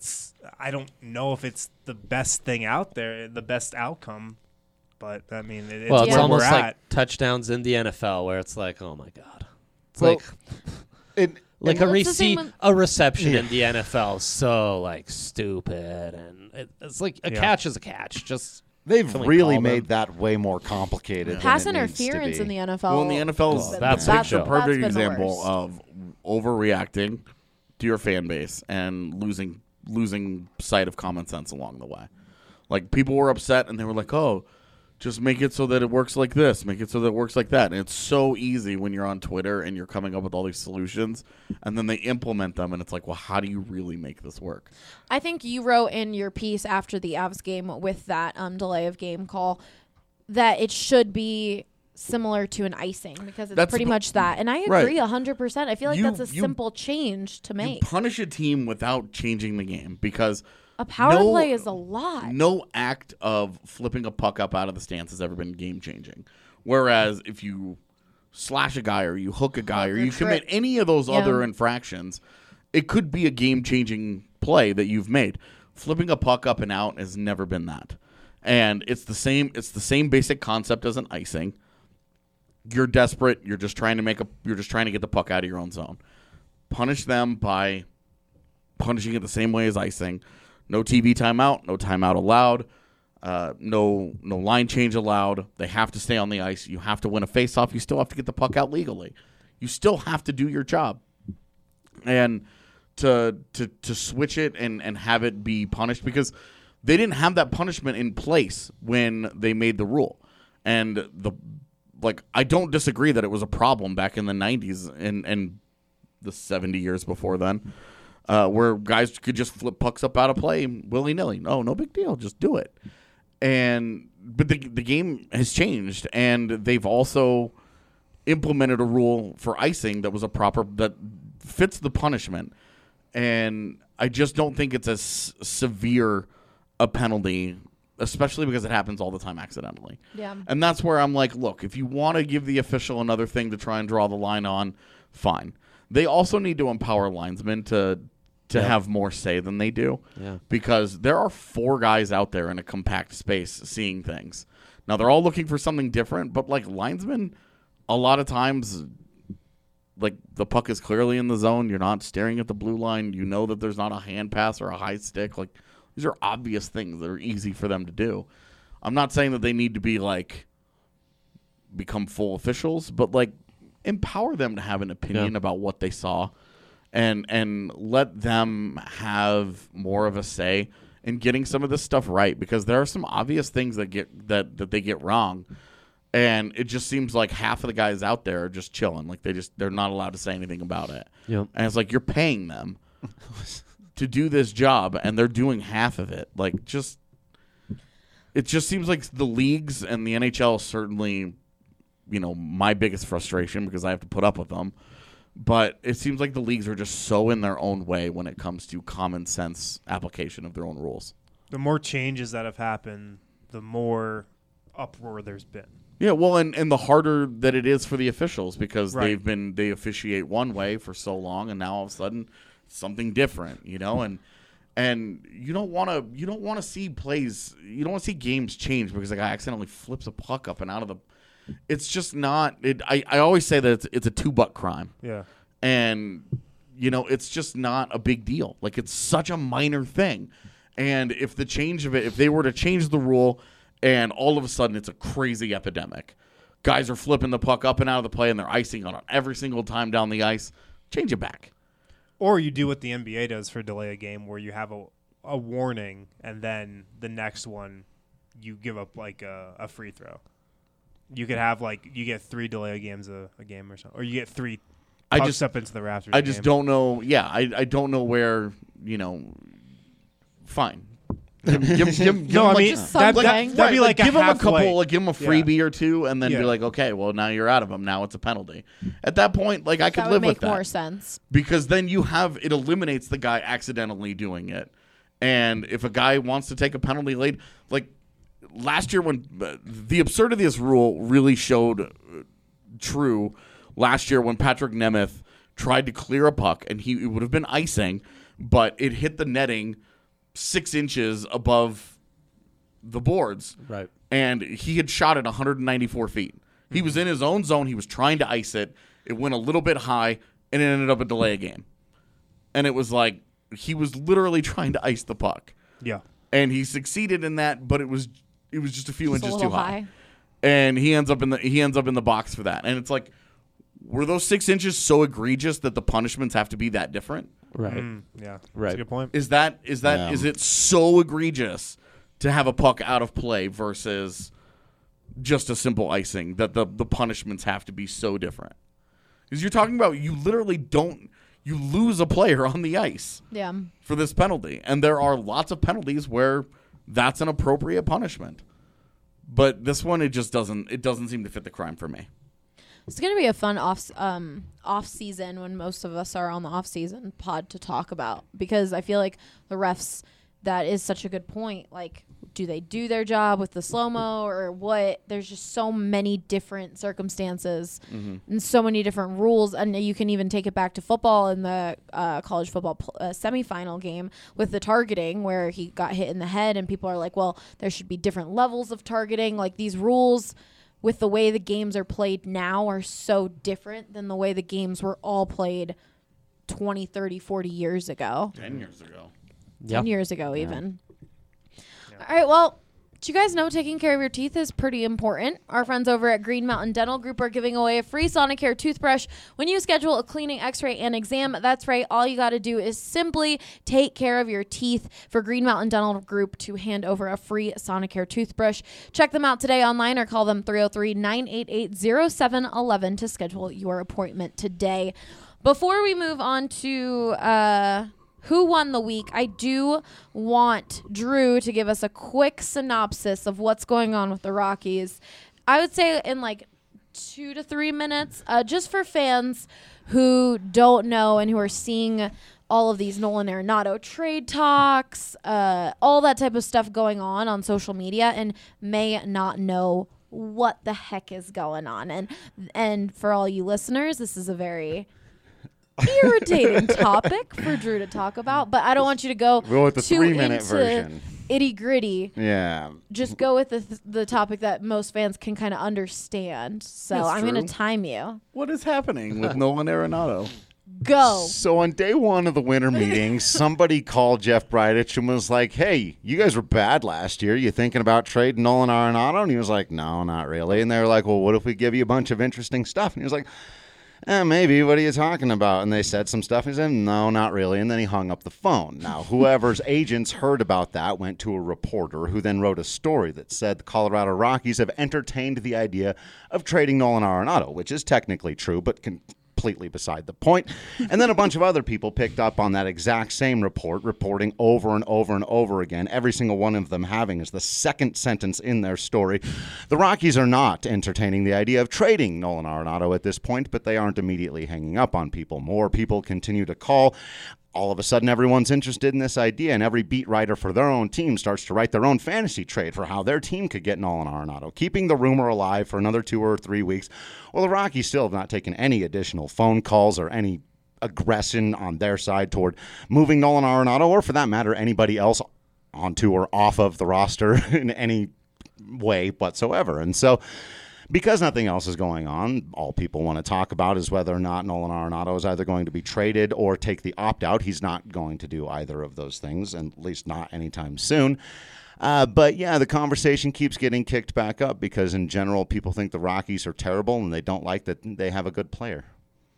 B: I don't know if it's the best thing out there, the best outcome. But I mean, it's
D: Well, it's
B: where
D: almost
B: we're
D: like
B: at.
D: touchdowns in the NFL where it's like, oh my god, it's
E: Well,
D: like
E: It,
D: like
A: Well, it's the same when-
D: a reception in the NFL is so like stupid, and it's like a catch is a catch. Just
E: they've
D: Can we
E: really
D: call them?
E: made that way more complicated.
A: Pass
E: than it needs to
A: interference
E: be.
A: in the NFL.
C: Well, in the NFL,
A: has been-
D: that's
C: that's
D: big
C: a
D: show.
C: perfect
A: been the
C: example
A: worst.
C: of overreacting to your fan base and losing sight of common sense along the way. Like, people were upset and they were like, "Oh, just make it so that it works like this, make it so that it works like that." And it's so easy when you're on Twitter and you're coming up with all these solutions, and then they implement them, and it's like, well, how do you really make this work?
A: I think you wrote in your piece after the Avs game with that delay of game call that it should be similar to an icing because it's
C: That's
A: pretty
C: the-
A: much that. And I
C: Right.
A: agree 100%. I feel like
C: You-
A: that's a
C: you-
A: simple change to
C: You
A: make.
C: punish a team without changing the game because
A: A power
C: no-
A: play is a lot.
C: no act of flipping a puck up out of the stance has ever been game changing. Whereas if you slash a guy or you hook a guy or you commit any of those
A: Yeah.
C: other infractions, it could be a game changing play that you've made. Flipping a puck up and out has never been that. And it's the same basic concept as an icing. You're desperate, you're just trying to get the puck out of your own zone. Punish them by punishing it the same way as icing. No TV timeout, no timeout allowed, no line change allowed. They have to stay on the ice. You have to win a faceoff. You still have to get the puck out legally. You still have to do your job. And to switch it and have it be punished, because they didn't have that punishment in place when they made the rule. And I don't disagree that it was a problem back in the 90s and the 70 years before then, where guys could just flip pucks up out of play willy-nilly. No big deal. Just do it. But the game has changed, and they've also implemented a rule for icing that fits the punishment. And I just don't think it's as severe a penalty, especially because it happens all the time accidentally.
A: Yeah.
C: And that's where I'm like, look, if you want to give the official another thing to try and draw the line on, fine. They also need to empower linesmen to have more say than they do.
D: Yeah.
C: Because there are 4 guys out there in a compact space seeing things. Now, they're all looking for something different, but linesmen, a lot of times, the puck is clearly in the zone. You're not staring at the blue line. You know that there's not a hand pass or a high stick. These are obvious things that are easy for them to do. I'm not saying that they need to be become full officials, but empower them to have an opinion about what they saw, and let them have more of a say in getting some of this stuff right, because there are some obvious things that they get wrong. And it just seems like half of the guys out there are just chilling. They're not allowed to say anything about it.
D: Yep.
C: And it's you're paying them to do this job, and they're doing half of it. It just seems like the leagues and the NHL certainly, my biggest frustration, because I have to put up with them. But it seems like the leagues are just so in their own way when it comes to common sense application of their own rules.
B: The more changes that have happened, the more uproar there's been.
C: Yeah, well, and the harder that it is for the officials, because
B: Right.
C: they officiate one way for so long, and now all of a sudden something different, and you don't want to see plays, you don't want to see games change because a guy accidentally flips a puck up and out of the. It's just not. I always say that it's a $2 crime.
B: Yeah.
C: And it's just not a big deal. It's such a minor thing, and if they were to change the rule. And all of a sudden, it's a crazy epidemic. Guys are flipping the puck up and out of the play, and they're icing on it every single time down the ice. Change it back.
B: Or you do what the NBA does for delay a game, where you have a warning, and then the next one, you give up a free throw. You could have you get 3 delay games a game or something, or you get 3 pucks up into the rafters.
C: I just don't know. Yeah, I don't know where. Fine.
B: No, I mean that'd be like
C: give
B: a
C: them a
B: halfway.
C: couple, give them a freebie or two, and then
B: Yeah.
C: be like, okay, well now you're out of them. Now it's a penalty. At that point, I could
A: That
C: live
A: would
C: with
A: make
C: that
A: more sense.
C: because then it eliminates the guy accidentally doing it. And if a guy wants to take a penalty late, last year when the absurdity of this rule really showed true last year when Patrick Nemeth tried to clear a puck and it would have been icing, but it hit the netting 6 inches above the boards.
D: Right.
C: And he had shot it 194 feet. He was in his own zone. He was trying to ice it. It went a little bit high, and it ended up a delay game. And it was he was literally trying to ice the puck.
B: Yeah.
C: And he succeeded in that, but it was just a few
A: Just a
C: inches
A: little
C: too high. And he ends up in the box for that. And it's were those 6 inches so egregious that the punishments have to be that different?
D: Right.
B: Yeah.
D: Right.
B: That's a good point.
C: Is it so egregious to have a puck out of play versus just a simple icing that the punishments have to be so different? Because you're talking about you lose a player on the ice
A: Yeah.
C: for this penalty, and there are lots of penalties where that's an appropriate punishment. But this one, it doesn't seem to fit the crime for me.
A: It's going to be a fun off season when most of us are on the off season pod to talk about, because I feel like the refs, that is such a good point. Do they do their job with the slow-mo or what? There's just so many different circumstances and so many different rules. And you can even take it back to football in the college football semifinal game with the targeting where he got hit in the head and people are like, well, there should be different levels of targeting. These rules with the way the games are played now are so different than the way the games were all played 20, 30, 40 years ago.
C: 10 years ago.
A: 10 years ago, even. All right, well, do you guys know taking care of your teeth is pretty important? Our friends over at Green Mountain Dental Group are giving away a free Sonicare toothbrush when you schedule a cleaning, x-ray, and exam. That's right. All you got to do is simply take care of your teeth for Green Mountain Dental Group to hand over a free Sonicare toothbrush. Check them out today online or call them 303-988-0711 to schedule your appointment today. Before we move on to who won the week, I do want Drew to give us a quick synopsis of what's going on with the Rockies. I would say in like 2 to 3 minutes, just for fans who don't know and who are seeing all of these Nolan Arenado trade talks, all that type of stuff going on social media and may not know what the heck is going on. And for all you listeners, this is a very irritating topic for Drew to talk about, but I don't want you to go
E: with the
A: too
E: 3-minute
A: into
E: version.
A: Itty gritty.
E: Yeah.
A: Just go with the topic that most fans can kind of understand. So
C: That's
A: I'm going to
C: true.
A: time you.
C: What is happening with Nolan Arenado?
A: Go.
E: So on day one of the winter meeting, somebody called Jeff Bridich and was like, hey, you guys were bad last year. You thinking about trading Nolan Arenado? And he was like, no, not really. And they were like, well, what if we give you a bunch of interesting stuff? And he was like, maybe. What are you talking about? And they said some stuff. He said, no, not really. And then he hung up the phone. Now, whoever's agents heard about that went to a reporter who then wrote a story that said the Colorado Rockies have entertained the idea of trading Nolan Arenado, which is technically true, but completely beside the point. And then a bunch of other people picked up on that exact same report, reporting over and over and over again, every single one of them having as the second sentence in their story. The Rockies are not entertaining the idea of trading Nolan Arenado at this point, but they aren't immediately hanging up on people. More people continue to call. All of a sudden, everyone's interested in this idea, and every beat writer for their own team starts to write their own fantasy trade for how their team could get Nolan Arenado, keeping the rumor alive for another 2 or 3 weeks. Well, the Rockies still have not taken any additional phone calls or any aggression on their side toward moving Nolan Arenado, or for that matter, anybody else onto or off of the roster in any way whatsoever. And so, because nothing else is going on, all people want to talk about is whether or not Nolan Arenado is either going to be traded or take the opt-out. He's not going to do either of those things, and at least not anytime soon. But, yeah, the conversation keeps getting kicked back up because, in general, people think the Rockies are terrible and they don't like that they have a good player.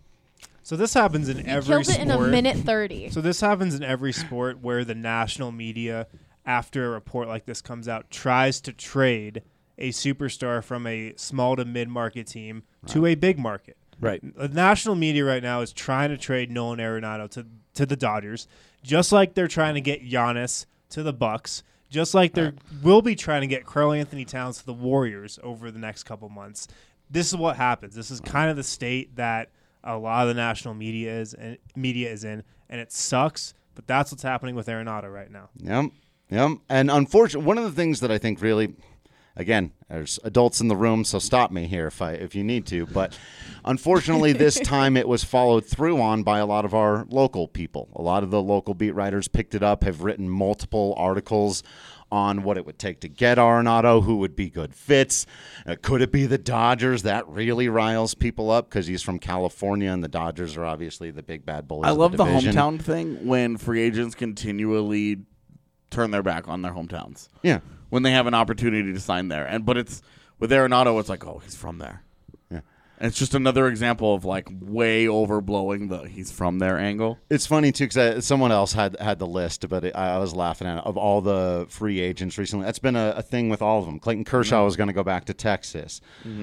B: So this happens in every
A: Killed it
B: sport.
A: in a minute 30.
B: So this happens in every sport where the national media, after a report like this comes out, tries to trade a superstar from a small to mid-market team to a big market.
D: Right.
B: The national media right now is trying to trade Nolan Arenado to the Dodgers, just like they're trying to get Giannis to the Bucks, just like they will be trying to get Karl-Anthony Towns to the Warriors over the next couple months. This is what happens. This is kind of the state that a lot of the national media is in, and it sucks, but that's what's happening with Arenado right now.
E: Yep. And unfortunately, one of the things that I think really... Again, there's adults in the room, so stop me here if you need to. But unfortunately, this time it was followed through on by a lot of our local people. A lot of the local beat writers picked it up, have written multiple articles on what it would take to get Arenado, who would be good fits. Could it be the Dodgers? That really riles people up because he's from California, and the Dodgers are obviously the big bad bullies.
C: I love
E: of
C: the
E: division.
C: hometown thing when free agents continually turn their back on their hometowns.
E: Yeah.
C: When they have an opportunity to sign there. But it's with Arenado, it's like, oh, he's from there.
E: Yeah.
C: And it's just another example of like way overblowing the he's from there angle.
E: It's funny, too, because someone else had the list, but I was laughing at it, of all the free agents recently. That's been a thing with all of them. Clayton Kershaw was going to go back to Texas.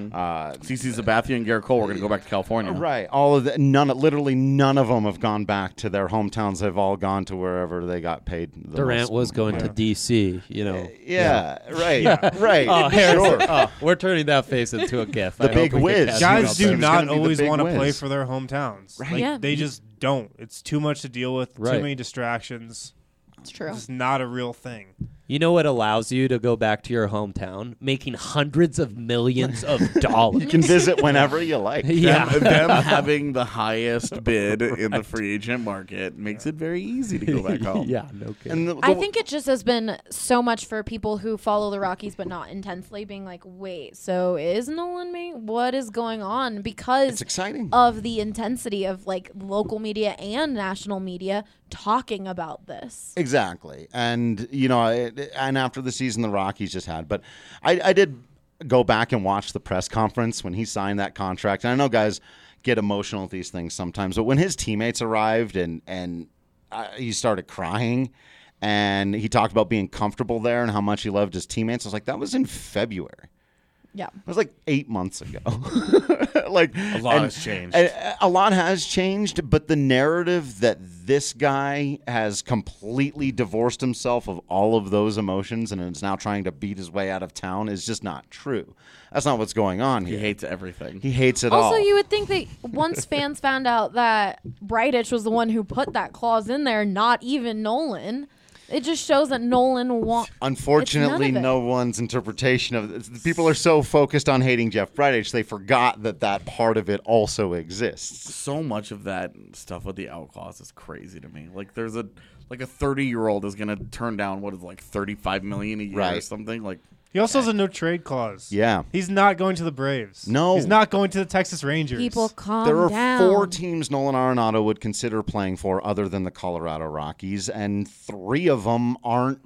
C: CC Sabathia and Garrett Cole were going to go back to California.
E: Right. All of literally none of them have gone back to their hometowns. They've all gone to wherever they got paid.
D: Durant was going to D.C., you know.
E: Right.
D: Oh, Harrison.
E: Sure.
D: Oh, we're turning that face into a gif.
E: The
D: I
E: big
D: hope we can
E: whiz.
D: catch
B: Guys
D: you out
B: do
D: there.
E: It's
B: not
E: gonna be the
B: always
E: big
B: want to play
E: whiz.
B: for their hometowns.
E: Right.
B: Like,
A: Yeah.
B: they just don't. It's too much to deal with,
D: Right.
B: too many distractions.
A: It's true.
B: It's not a real thing.
D: You know what allows you to go back to your hometown? Making hundreds of millions of dollars.
E: You can visit whenever you like.
D: Yeah.
C: Them having the highest bid in the free agent market makes it very easy to go back home.
D: Yeah, no kidding.
E: And
A: I think it just has been so much for people who follow the Rockies but not intensely, being like, wait, so is Nolan Maine? What is going on? Because
E: it's exciting.
A: of the intensity of like local media and national media talking about this.
E: Exactly. And, and after the season the Rockies just had. But I did go back and watch the press conference when he signed that contract. And I know guys get emotional with these things sometimes. But when his teammates arrived and he started crying and he talked about being comfortable there and how much he loved his teammates, I was like, that was in February.
A: Yeah.
E: It was like 8 months ago. A
C: lot has changed.
E: A lot has changed, but the narrative that this guy has completely divorced himself of all of those emotions and is now trying to beat his way out of town is just not true. That's not what's going on here.
C: He hates everything.
E: He hates it all.
A: Also, you would think that once fans found out that Bridich was the one who put that clause in there, not even Nolan, it just shows that Nolan wants.
E: Unfortunately, no one's interpretation of it. People are so focused on hating Jeff Bridich, they forgot that part of it also exists.
C: So much of that stuff with the out clause is crazy to me. Like there's a 30-year-old is gonna turn down what is like $35 million a year or
E: Right.
C: something. Like
B: He also has a no trade clause.
E: Yeah.
B: He's not going to the Braves.
E: No.
B: He's not going to the Texas Rangers.
A: People calm
E: There are
A: down.
E: 4 teams Nolan Arenado would consider playing for other than the Colorado Rockies, and 3 of them aren't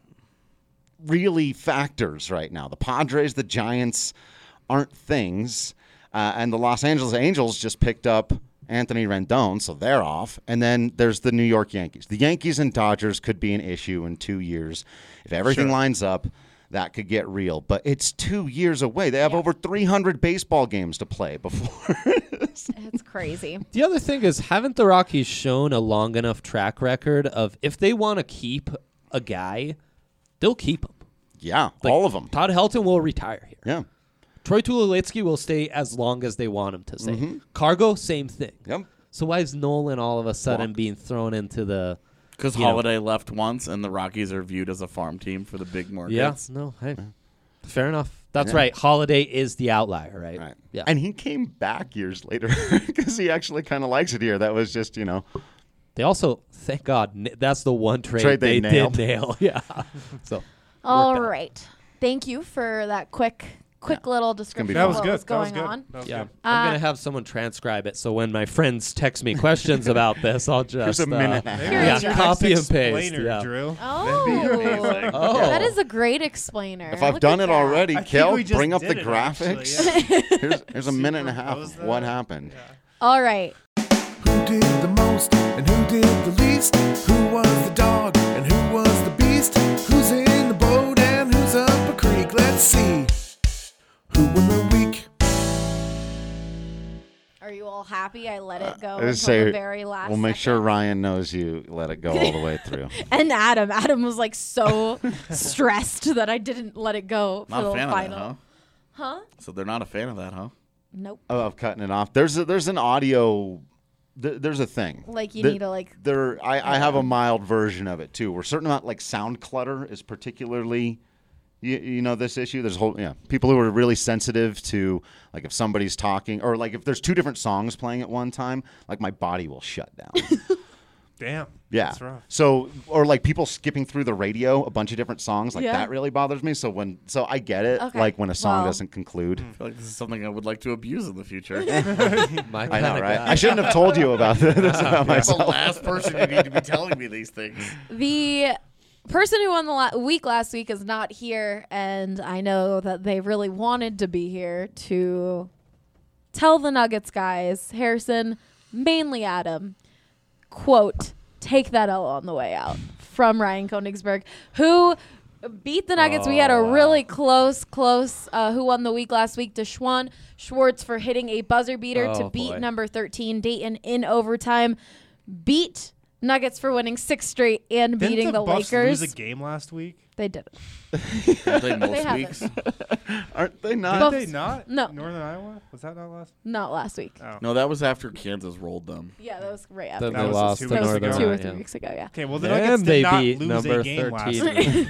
E: really factors right now. The Padres, the Giants aren't things, and the Los Angeles Angels just picked up Anthony Rendon, so they're off. And then there's the New York Yankees. The Yankees and Dodgers could be an issue in 2 years. If everything lines up, that could get real. But it's 2 years away. They have over 300 baseball games to play before.
A: It's crazy.
D: The other thing is, haven't the Rockies shown a long enough track record of if they want to keep a guy, they'll keep him?
E: Yeah,
D: Like,
E: all of them.
D: Todd Helton will retire here.
E: Yeah.
D: Troy Tulowitzki will stay as long as they want him to stay. Cargo, same thing.
E: Yep.
D: So why is Nolan all of a sudden being thrown into the...
C: because
D: You know.
C: Holiday left once, and the Rockies are viewed as a farm team for the big markets.
D: Yeah, no, hey, fair enough. That's right. Holiday is the outlier, right?
E: Right.
D: Yeah.
E: And he came back years later because he actually kind of likes it here. That was just,
D: They also, thank God, that's the one trade
E: Trade they
D: did
E: nailed.
D: nail. Yeah. So
A: All
D: worked out.
A: right. Thank you for that quick little description
E: be
A: of
B: That was
A: what
B: good.
A: was
B: That was
A: going
B: good.
A: on.
B: That was
D: yeah,
B: good.
D: I'm gonna have someone transcribe it. So when my friends text me questions about this, I'll just
E: Here's a minute and a half.
B: Maybe
A: Yeah,
B: that's your
D: copy
B: next
D: and paste,
B: explainer,
D: yeah.
B: Drew.
A: Oh.
D: Oh.
A: That is a great explainer.
E: If I've
A: Look
E: done
A: at
E: it
A: that.
E: already,
B: I think
E: Kel,
B: we just
E: bring up the
B: did it, actually,
E: graphics. Here's a minute and a half
B: Superimposed
E: of what
B: that.
E: happened.
A: All right.
I: Who did the most and who did the least? Who was the dog and who was the beast? Who's in the boat and who's up a creek? Let's see. Who won the week?
A: Are you all happy I let it go
E: I
A: until
E: just say,
A: the very last
E: we'll make sure
A: second?
E: Ryan knows you let it go all the way through.
A: And Adam was like so stressed that I didn't let it go for
C: Not
A: the
C: a fan
A: final.
C: of that, huh?
A: Huh?
C: So they're not a fan of that, huh?
A: Nope.
E: Of cutting it off. There's an audio. There's a thing.
A: Like you
E: The-
A: need to like.
E: I have a mild version of it too. Where certain amount like sound clutter is particularly, you know, this issue. There's people who are really sensitive to like if somebody's talking or like if there's 2 different songs playing at one time, like my body will shut down.
B: Damn.
E: Yeah.
B: That's rough.
E: So or like people skipping through the radio, a bunch of different songs, like
A: Yeah.
E: that really bothers me. So I get it.
A: Okay.
E: Like when a song
A: Well-
E: doesn't conclude.
C: I feel like this is something I would like to abuse in the future.
D: My
E: I know,
D: kinda
E: right?
D: guy.
E: I shouldn't have told you about this about
C: That's the
E: myself.
C: last person you need to be telling me these things.
A: The person who won the week last week is not here, and I know that they really wanted to be here to tell the Nuggets guys, Harrison, mainly Adam, quote, take that L on the way out from Ryan Koenigsberg, who beat the Nuggets. We had a really close, who won the week last week, Deshaun Schwartz for hitting a buzzer beater to
D: Oh,
A: beat
D: boy.
A: number 13, Dayton, in overtime, beat Nuggets for winning 6 straight and
B: Didn't
A: beating the
B: Buffs
A: Lakers.
B: lose a game last week?
A: They did it.
C: Aren't they most
A: haven't.
C: weeks?
E: Aren't they not?
A: Buffs-
B: Did they not?
A: No.
B: Northern Iowa? Was that not last?
A: Not last week.
B: Oh.
C: No, that was after Kansas rolled them.
A: Yeah, that was right after.
D: Then
B: That
D: they
B: was
D: lost
B: 2
D: to
B: weeks
A: That was
B: ago.
D: Northern
A: 2 or
D: Iowa,
A: 3
D: yeah.
A: weeks ago, yeah.
B: Okay, well, the
D: And
B: Nuggets
D: they
B: did not
D: beat
B: lose
D: number
B: a game last
D: 13.
B: week.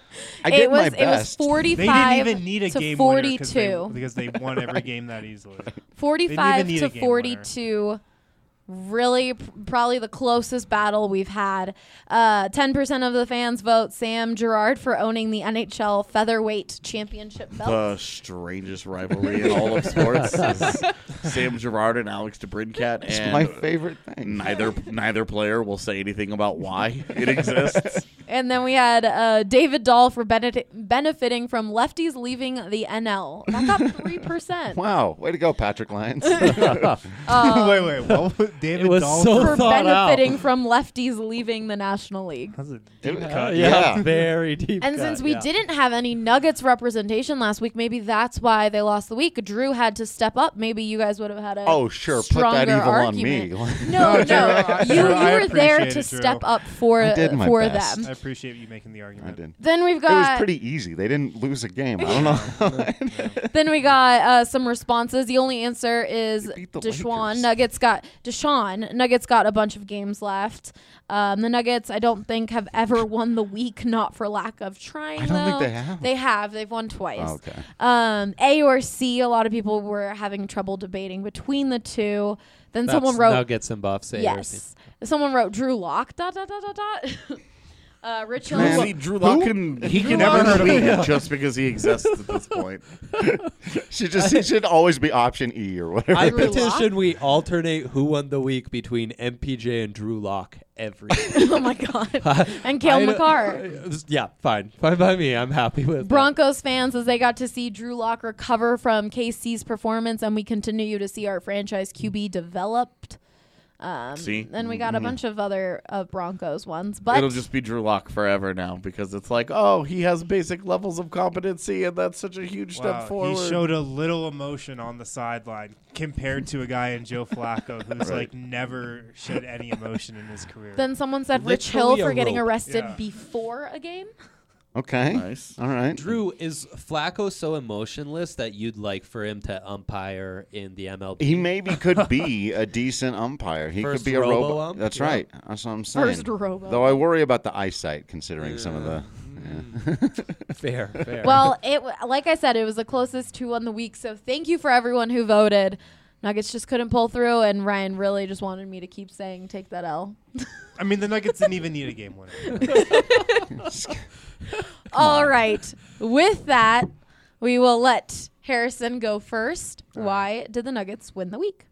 E: I did
A: it was
E: my
A: it was
E: best.
A: 45
B: They didn't even need a
A: to
B: game
A: 42.
B: winner because they won every game that easily.
A: 45
B: need
A: to
B: a game
A: 42. Really, probably the closest battle we've had. 10% of the fans vote Sam Girard for owning the NHL featherweight championship belt.
C: The strangest rivalry in all of sports is Sam Girard and Alex DeBrincat.
E: It's
C: And
E: my favorite thing.
C: neither player will say anything about why it exists.
A: And then we had David Dahl for benefiting from lefties leaving the NL. That got 3%.
E: Wow, way to go, Patrick Lyons.
B: wait, what? David
D: It was
B: Dahl
D: so
A: For
D: thought out.
A: benefiting from lefties leaving the National League.
B: That's a deep cut.
E: Yeah.
D: very deep.
A: And
D: cut,
A: since we
D: yeah.
A: didn't have any Nuggets representation last week, maybe that's why they lost the week. Drew had to step up. Maybe you guys would have had a
E: Oh, sure. Put
A: stronger
E: that evil
A: argument.
E: on me.
A: No,
B: No, Drew, I-
A: you
B: Drew, I
A: were there
B: appreciate
A: to
B: it, Drew.
A: step up for
E: I did my
A: for
E: best.
A: them.
B: I appreciate you making the
E: I
B: argument.
E: did.
A: Then we've
E: It was
A: got
E: pretty easy. They didn't lose a game. I don't know.
A: then we got some responses. The only answer is
E: You beat the
A: Deshaun.
E: Lakers.
A: Nuggets got a bunch of games left. The Nuggets, I don't think, have ever won the week, not for lack of trying.
E: I don't think
A: though.
E: they have.
A: They have. They've won twice.
E: Oh, okay.
A: A or C. A lot of people were having trouble debating between the two. Then
D: That's
A: someone wrote
D: Nuggets and Buffs.
A: yes. Someone wrote Drew Lock. ... Rich
E: Man.
A: Hill.
C: See, Drew Lock can
B: Never
C: never
B: heard of
C: tweet
B: him.
C: just because he exists at this point.
E: It should always be option E or whatever.
D: I
A: Drew
D: petition we alternate who won the week between MPJ and Drew Lock every week.
A: Oh my God. And Cale McCarr.
D: Yeah, fine by me. I'm happy with that.
A: Broncos fans, as they got to see Drew Lock recover from KC's performance, and we continue to see our franchise QB developed.
C: See?
A: Then we got a bunch of other Broncos ones, but
C: It'll just be Drew Lock forever now because it's like, oh, he has basic levels of competency, and that's such a huge
B: Wow,
C: step forward.
B: he showed a little emotion on the sideline compared to a guy in Joe Flacco who's like never showed any emotion in his career.
A: then someone said Rich Hill
D: Literally a
A: for getting
D: rope.
A: arrested
B: Yeah.
A: before a game.
E: Okay.
C: Nice.
E: All right.
D: Drew, is Flacco so emotionless that you'd like for him to umpire in the MLB?
E: He maybe could be a decent umpire. He
D: First
E: could be a
D: robo
E: robo.
D: ump?
E: That's
D: Yeah.
E: right. That's what I'm saying.
A: First robo.
E: Though I worry about the eyesight, considering some of the.
D: Fair.
A: Well, like I said, it was the closest to on the week. So thank you for everyone who voted. Nuggets just couldn't pull through, and Ryan really just wanted me to keep saying take that L.
B: I mean, the Nuggets didn't even need a game winner.
A: All right. With that, we will let Harrison go first. Why did the Nuggets win the week?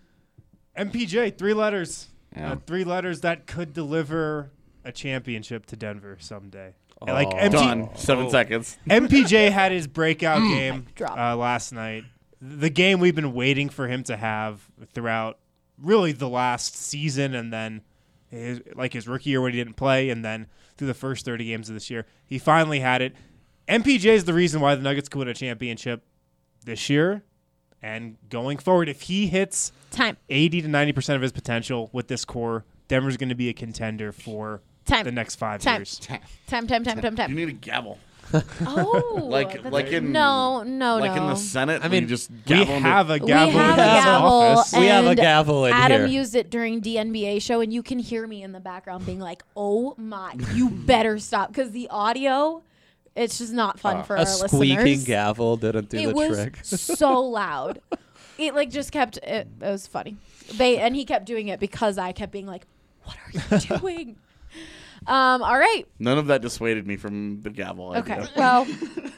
B: MPJ, 3 letters.
E: Yeah.
B: 3 letters that could deliver a championship to Denver someday.
D: Oh.
B: Like
C: Done. 7 seconds.
B: MPJ had his breakout game
A: Drop.
B: last night. The game we've been waiting for him to have throughout really the last season, and then his rookie year when he didn't play, and then through the first 30 games of this year. He finally had it. MPJ is the reason why the Nuggets could win a championship this year and going forward. If he hits
A: Time.
B: 80 to 90% of his potential with this core, Denver's going to be a contender for
A: Time.
B: the next 5
A: Time.
B: years.
A: Time.
C: You need a gavel.
A: Oh.
C: Like
A: that's-
C: in
A: no.
C: in the Senate.
D: I
C: where you
D: mean,
C: just
B: We
C: gavel into-
B: have a gavel
A: we have
B: in
A: a
B: his
A: gavel.
B: office.
D: We have a
A: and
D: gavel in
A: Adam
D: here.
A: used it during the NBA show, and you can hear me in the background being like, "Oh my, you better stop," because the audio, it's just not fun for
D: a
A: our
D: squeaking
A: listeners.
D: gavel didn't do
A: It
D: the
A: was
D: trick.
A: so loud. It like just kept. It was funny. And he kept doing it because I kept being like, "What are you doing?" All right.
C: None of that dissuaded me from the gavel
A: Okay.
C: idea.
A: Well,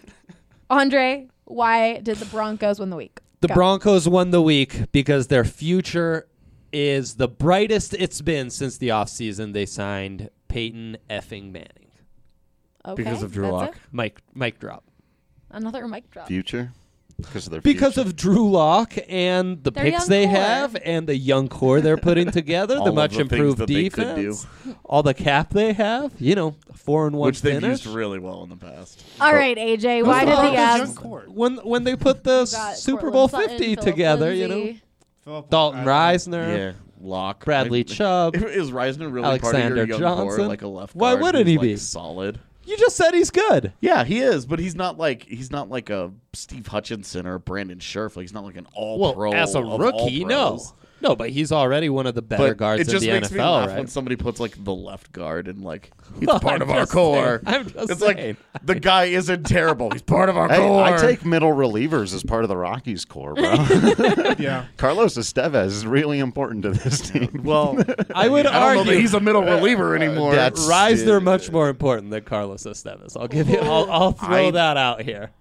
A: Andre, why did the Broncos win the week?
D: The
A: Go.
D: Broncos won the week because their future is the brightest it's been since the offseason. They signed Peyton effing Manning.
A: Okay,
C: Because of Drew
A: that's
C: Lock.
A: it?
D: Mic drop.
A: Another mic drop.
E: Future? Because of their
D: Because
E: future.
D: of Drew Lock and the
A: Their
D: picks
A: young
D: they
A: core.
D: have and the young core they're putting together,
C: All
D: the
C: of
D: much
C: the things
D: improved
C: that they could
D: defense,
C: do.
D: all the cap they have, 4-1
C: Which they've
D: finish.
C: used really well in the past.
A: All right, AJ, why did the Avs?
D: When they put the
A: Got
D: Super
A: Cortland
D: Bowl
A: Sutton,
D: 50
A: Phillip
D: together,
A: Lindsay.
D: Dalton Reisner,
C: Yeah, Lock.
D: Bradley Chubb.
C: Is Reisner really
D: Alexander
C: part of your young core,
D: Johnson?
C: like a left
D: Why
C: guard
D: wouldn't
C: who's,
D: he
C: like,
D: be?
C: solid?
D: You just said he's good.
C: Yeah, he is, but he's not like a Steve Hutchinson or Brandon Scherf. Like he's not like an all pro.
D: Well, as a
C: of
D: rookie,
C: all
D: no.
C: pros.
D: No, but he's already one of the better
C: But
D: guards
C: it just
D: in the
C: makes me
D: NFL,
C: laugh
D: right?
C: when somebody puts like the left guard and like he's
D: Well,
C: part
D: I'm
C: of our
D: just
C: core.
D: saying. I'm just
C: it's
D: saying.
C: like the guy isn't terrible. He's part of our
E: Hey,
C: core.
E: I take middle relievers as part of the Rockies core, bro.
B: Yeah.
E: Carlos Estevez is really important to this team.
C: Well,
D: I would
C: I don't know
D: argue
C: that he's a middle reliever anymore.
E: that's-
D: Reisner much more important than Carlos Estevez. I'll give you. I'll throw
C: I-
D: that out here.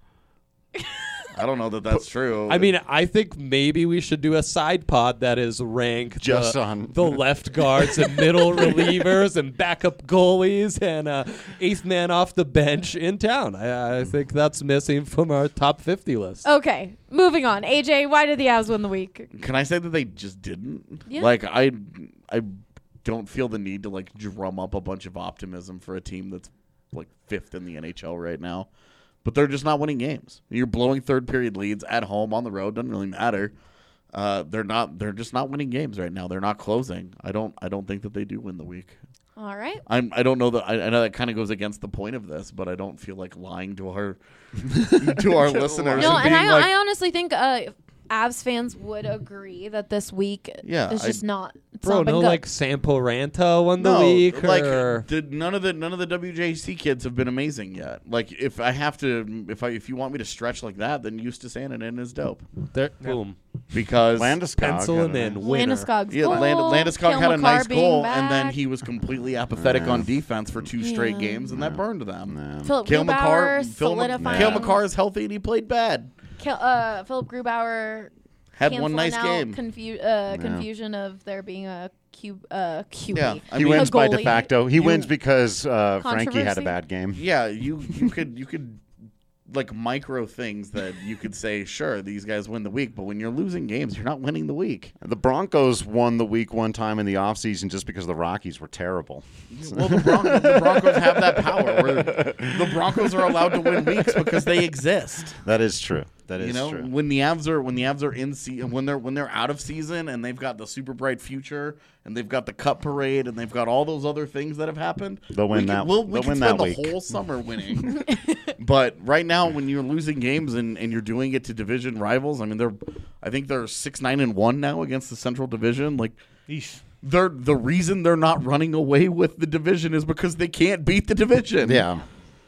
C: I don't know that that's true.
D: I mean, I think maybe we should do a side pod that is ranked
E: Just
D: the,
E: on-
D: the left guards and middle relievers and backup goalies and eighth man off the bench in town. I think that's missing from our top 50 list.
A: Okay, moving on. AJ, why did the Avs win the week?
C: Can I say that they just didn't?
A: Yeah.
C: Like I don't feel the need to like drum up a bunch of optimism for a team that's like 5th in the NHL right now. But they're just not winning games. You're blowing third period leads at home, on the road, doesn't really matter. They're just not winning games right now. They're not closing. I don't think that they do win the week.
A: All right.
C: I don't know that I know that kind of goes against the point of this, but I don't feel like lying to our to our listeners.
A: No, and
C: being like,
A: I honestly think Avs fans would agree that this week
C: Yeah,
A: is just not. It's
D: Bro,
A: not been
D: no,
A: good.
D: like Sampo Ranta won the
C: no,
D: week.
C: like
D: or...
C: none of the WJC kids have been amazing yet. Like if you want me to stretch like that, then Eustace Annunen is dope
D: Boom.
C: because
E: Landeskog.
D: Pencil him in. Winner.
A: Landeskog's
C: yeah,
A: goal,
C: Landeskog
A: Cale
C: had a
A: Makar
C: nice
A: being
C: goal,
A: back.
C: and then he was completely apathetic on defense for 2 straight games, and that burned them.
A: Philip
C: Cale
A: Grubauer
C: Makar,
A: solidifying.
C: Cale Makar is healthy, and he played bad.
A: Philip Grubauer
C: Had
A: canceling
C: one nice
A: out
C: game.
A: confusion of there being a QB.
C: Yeah, I
E: He
C: mean,
E: wins by
A: goalie.
E: de facto. He wins because Frankie had
A: Controversy?
E: a bad game.
C: Yeah, you could like micro things that you could say, sure, these guys win the week, but when you're losing games, you're not winning the week.
E: The Broncos won the week one time in the offseason just because the Rockies were terrible.
C: Well, the Broncos have that power where the Broncos are allowed to win weeks because they exist.
E: That is true. That is
C: You know,
E: true.
C: when the Avs are in season, when they're out of season, and they've got the super bright future, and they've got the Cup parade, and they've got all those other things that have happened,
E: They'll win that-
C: we
E: they'll
C: can
E: win
C: spend
E: that
C: the
E: week.
C: whole summer winning. But right now, when you're losing games and you're doing it to division rivals, I mean, I think they're 6-9-1 now against the Central Division. Like,
B: Eesh.
C: the reason they're not running away with the division is because they can't beat the division.
E: Yeah.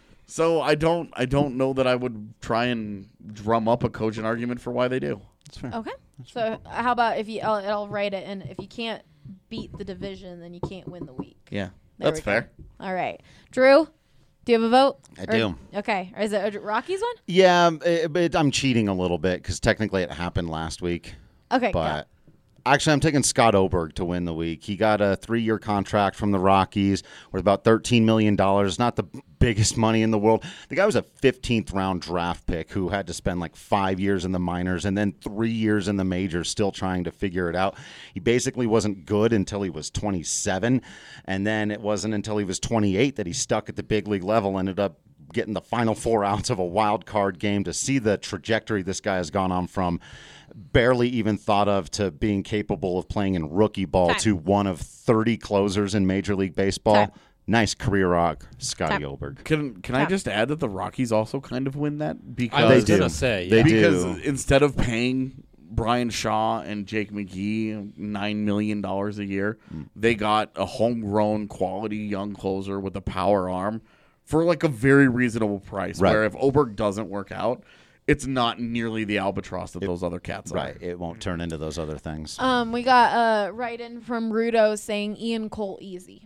C: So I don't know that I would try and drum up a cogent argument for why they do.
E: That's fair.
A: Okay. So how about if you? I'll write it, and if you can't beat the division, then you can't win the week.
C: Yeah,
A: There
C: that's
A: we go.
C: fair.
A: All right, Drew. Do you have a vote?
E: I do.
A: Okay. Or is it a Rockies one?
E: Yeah, but I'm cheating a little bit because technically it happened last week.
A: Okay.
E: But actually, I'm taking Scott Oberg to win the week. He got a 3-year contract from the Rockies worth about $13 million. Not the biggest money in the world. The guy was a 15th round draft pick who had to spend like 5 years in the minors and then 3 years in the majors still trying to figure it out. He basically wasn't good until he was 27. And then it wasn't until he was 28 that he stuck at the big league level, ended up getting the final 4 outs of a wild card game. To see the trajectory this guy has gone on from barely even thought of to being capable of playing in rookie ball
A: Time.
E: to one of 30 closers in Major League Baseball.
A: Time.
E: Nice career arc, Scotty
A: Time.
E: Oberg.
C: Can I just add that the Rockies also kind of win that because
D: I was
E: They do.
D: gonna say,
E: They
D: yeah.
C: because
E: do.
C: instead of paying Brian Shaw and Jake McGee $9 million a year, they got a homegrown quality young closer with a power arm for like a very reasonable price.
E: Right.
C: Where if Oberg doesn't work out, it's not nearly the albatross that those other cats
E: Right.
C: are.
E: It won't turn into those other things.
A: We got a write-in from Rudo saying Ian Cole easy.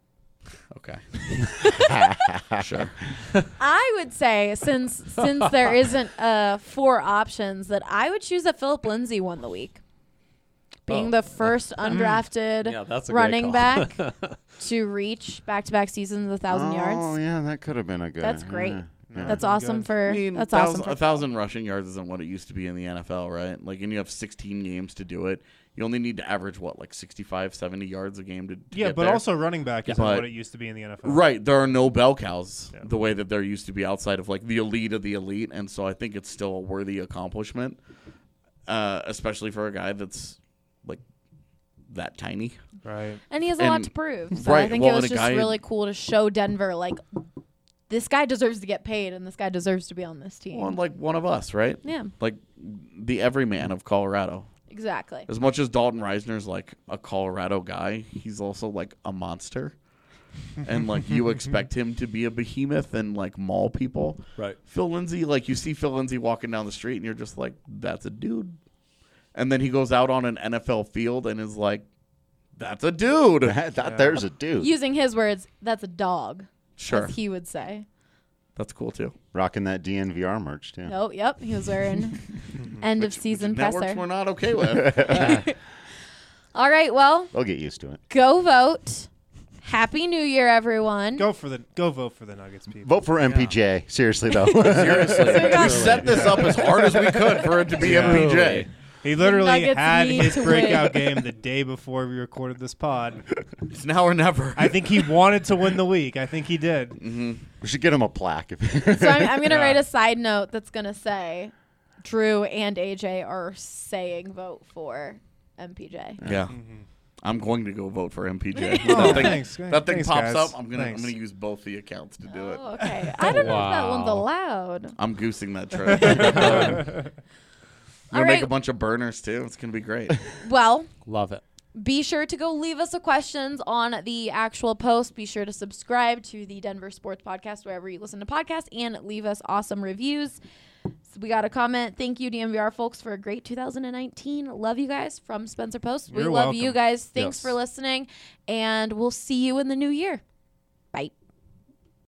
C: Okay. Sure.
A: I would say since there isn't 4 options, that I would choose that Philip Lindsay won the week, being the first undrafted
D: Yeah, that's a great
A: running
D: call.
A: back to reach back-to-back seasons 1,000
E: Oh,
A: yards.
E: yeah, that could have been a good.
A: That's great.
E: Yeah.
A: That's awesome for.
C: I mean,
A: That's awesome. For
C: 1,000 rushing yards isn't what it used to be in the NFL, right? Like, and you have 16 games to do it. You only need to average, what, like 65, 70 yards a game to
B: Yeah,
C: get
B: but
C: there?
B: also running back isn't
C: But-
B: what it used to be in the NFL.
C: Right, there are no bell cows
B: Yeah.
C: the way that there used to be outside of like the elite of the elite, and so I think it's still a worthy accomplishment, especially for a guy that's like that tiny.
B: Right.
A: and he has a lot
C: and-
A: to prove. So I
C: right,
A: think
C: well,
A: it was
C: and a
A: just
C: guy-
A: really cool to show Denver like this guy deserves to get paid, and this guy deserves to be on this team.
C: Well, like one of us, right?
A: Yeah.
C: Like the everyman of Colorado.
A: Exactly.
C: As much as Dalton Reisner's like a Colorado guy, he's also like a monster. And like you expect him to be a behemoth and like maul people.
D: Right.
C: Phil Lindsay, like you see Phil Lindsay walking down the street and you're just like, that's a dude. And then he goes out on an NFL field and is like, that's a dude.
E: There's a dude.
A: Using his words, that's a dog.
C: Sure.
A: As he would say.
C: That's cool too.
E: Rocking that DNVR merch, too.
A: Oh, yep. He was wearing end of season
C: Networks
A: presser.
C: we're not okay with.
A: All right. Well,
E: They'll get used to it.
A: go vote. Happy New Year, everyone.
B: Go vote for the Nuggets, people.
E: Vote for MPJ. Seriously, though.
C: Seriously.
A: got-
C: We set this up as hard as we could for it to be MPJ.
B: He literally
A: Nuggets
B: had
A: need
B: his
A: to
B: breakout game the day before we recorded this pod.
C: It's now or never.
B: I think he wanted to win the week. I think he did.
E: We should get him a plaque.
A: So I'm going to write a side note that's going to say Drew and AJ are saying vote for MPJ.
C: Yeah. I'm going to go vote for MPJ.
B: Oh,
C: that thing,
B: thanks.
C: that thing
B: Thanks,
C: pops
B: guys.
C: up. I'm gonna
B: Thanks.
C: use both the accounts to do it.
A: Oh, okay. I don't know if that one's
D: Wow.
A: allowed.
C: I'm goosing that trip. I'm gonna
A: All
C: make
A: right.
C: a bunch of burners too. It's gonna be great.
A: Well,
D: Love it.
A: be sure to go leave us a questions on the actual post. Be sure to subscribe to the Denver Sports Podcast wherever you listen to podcasts and leave us awesome reviews. So we got a comment. Thank you, DMVR folks, for a great 2019. Love you guys from Spencer Post. We
B: You're
A: love
B: welcome.
A: you guys. Thanks
D: Yes.
A: for listening, and we'll see you in the new year.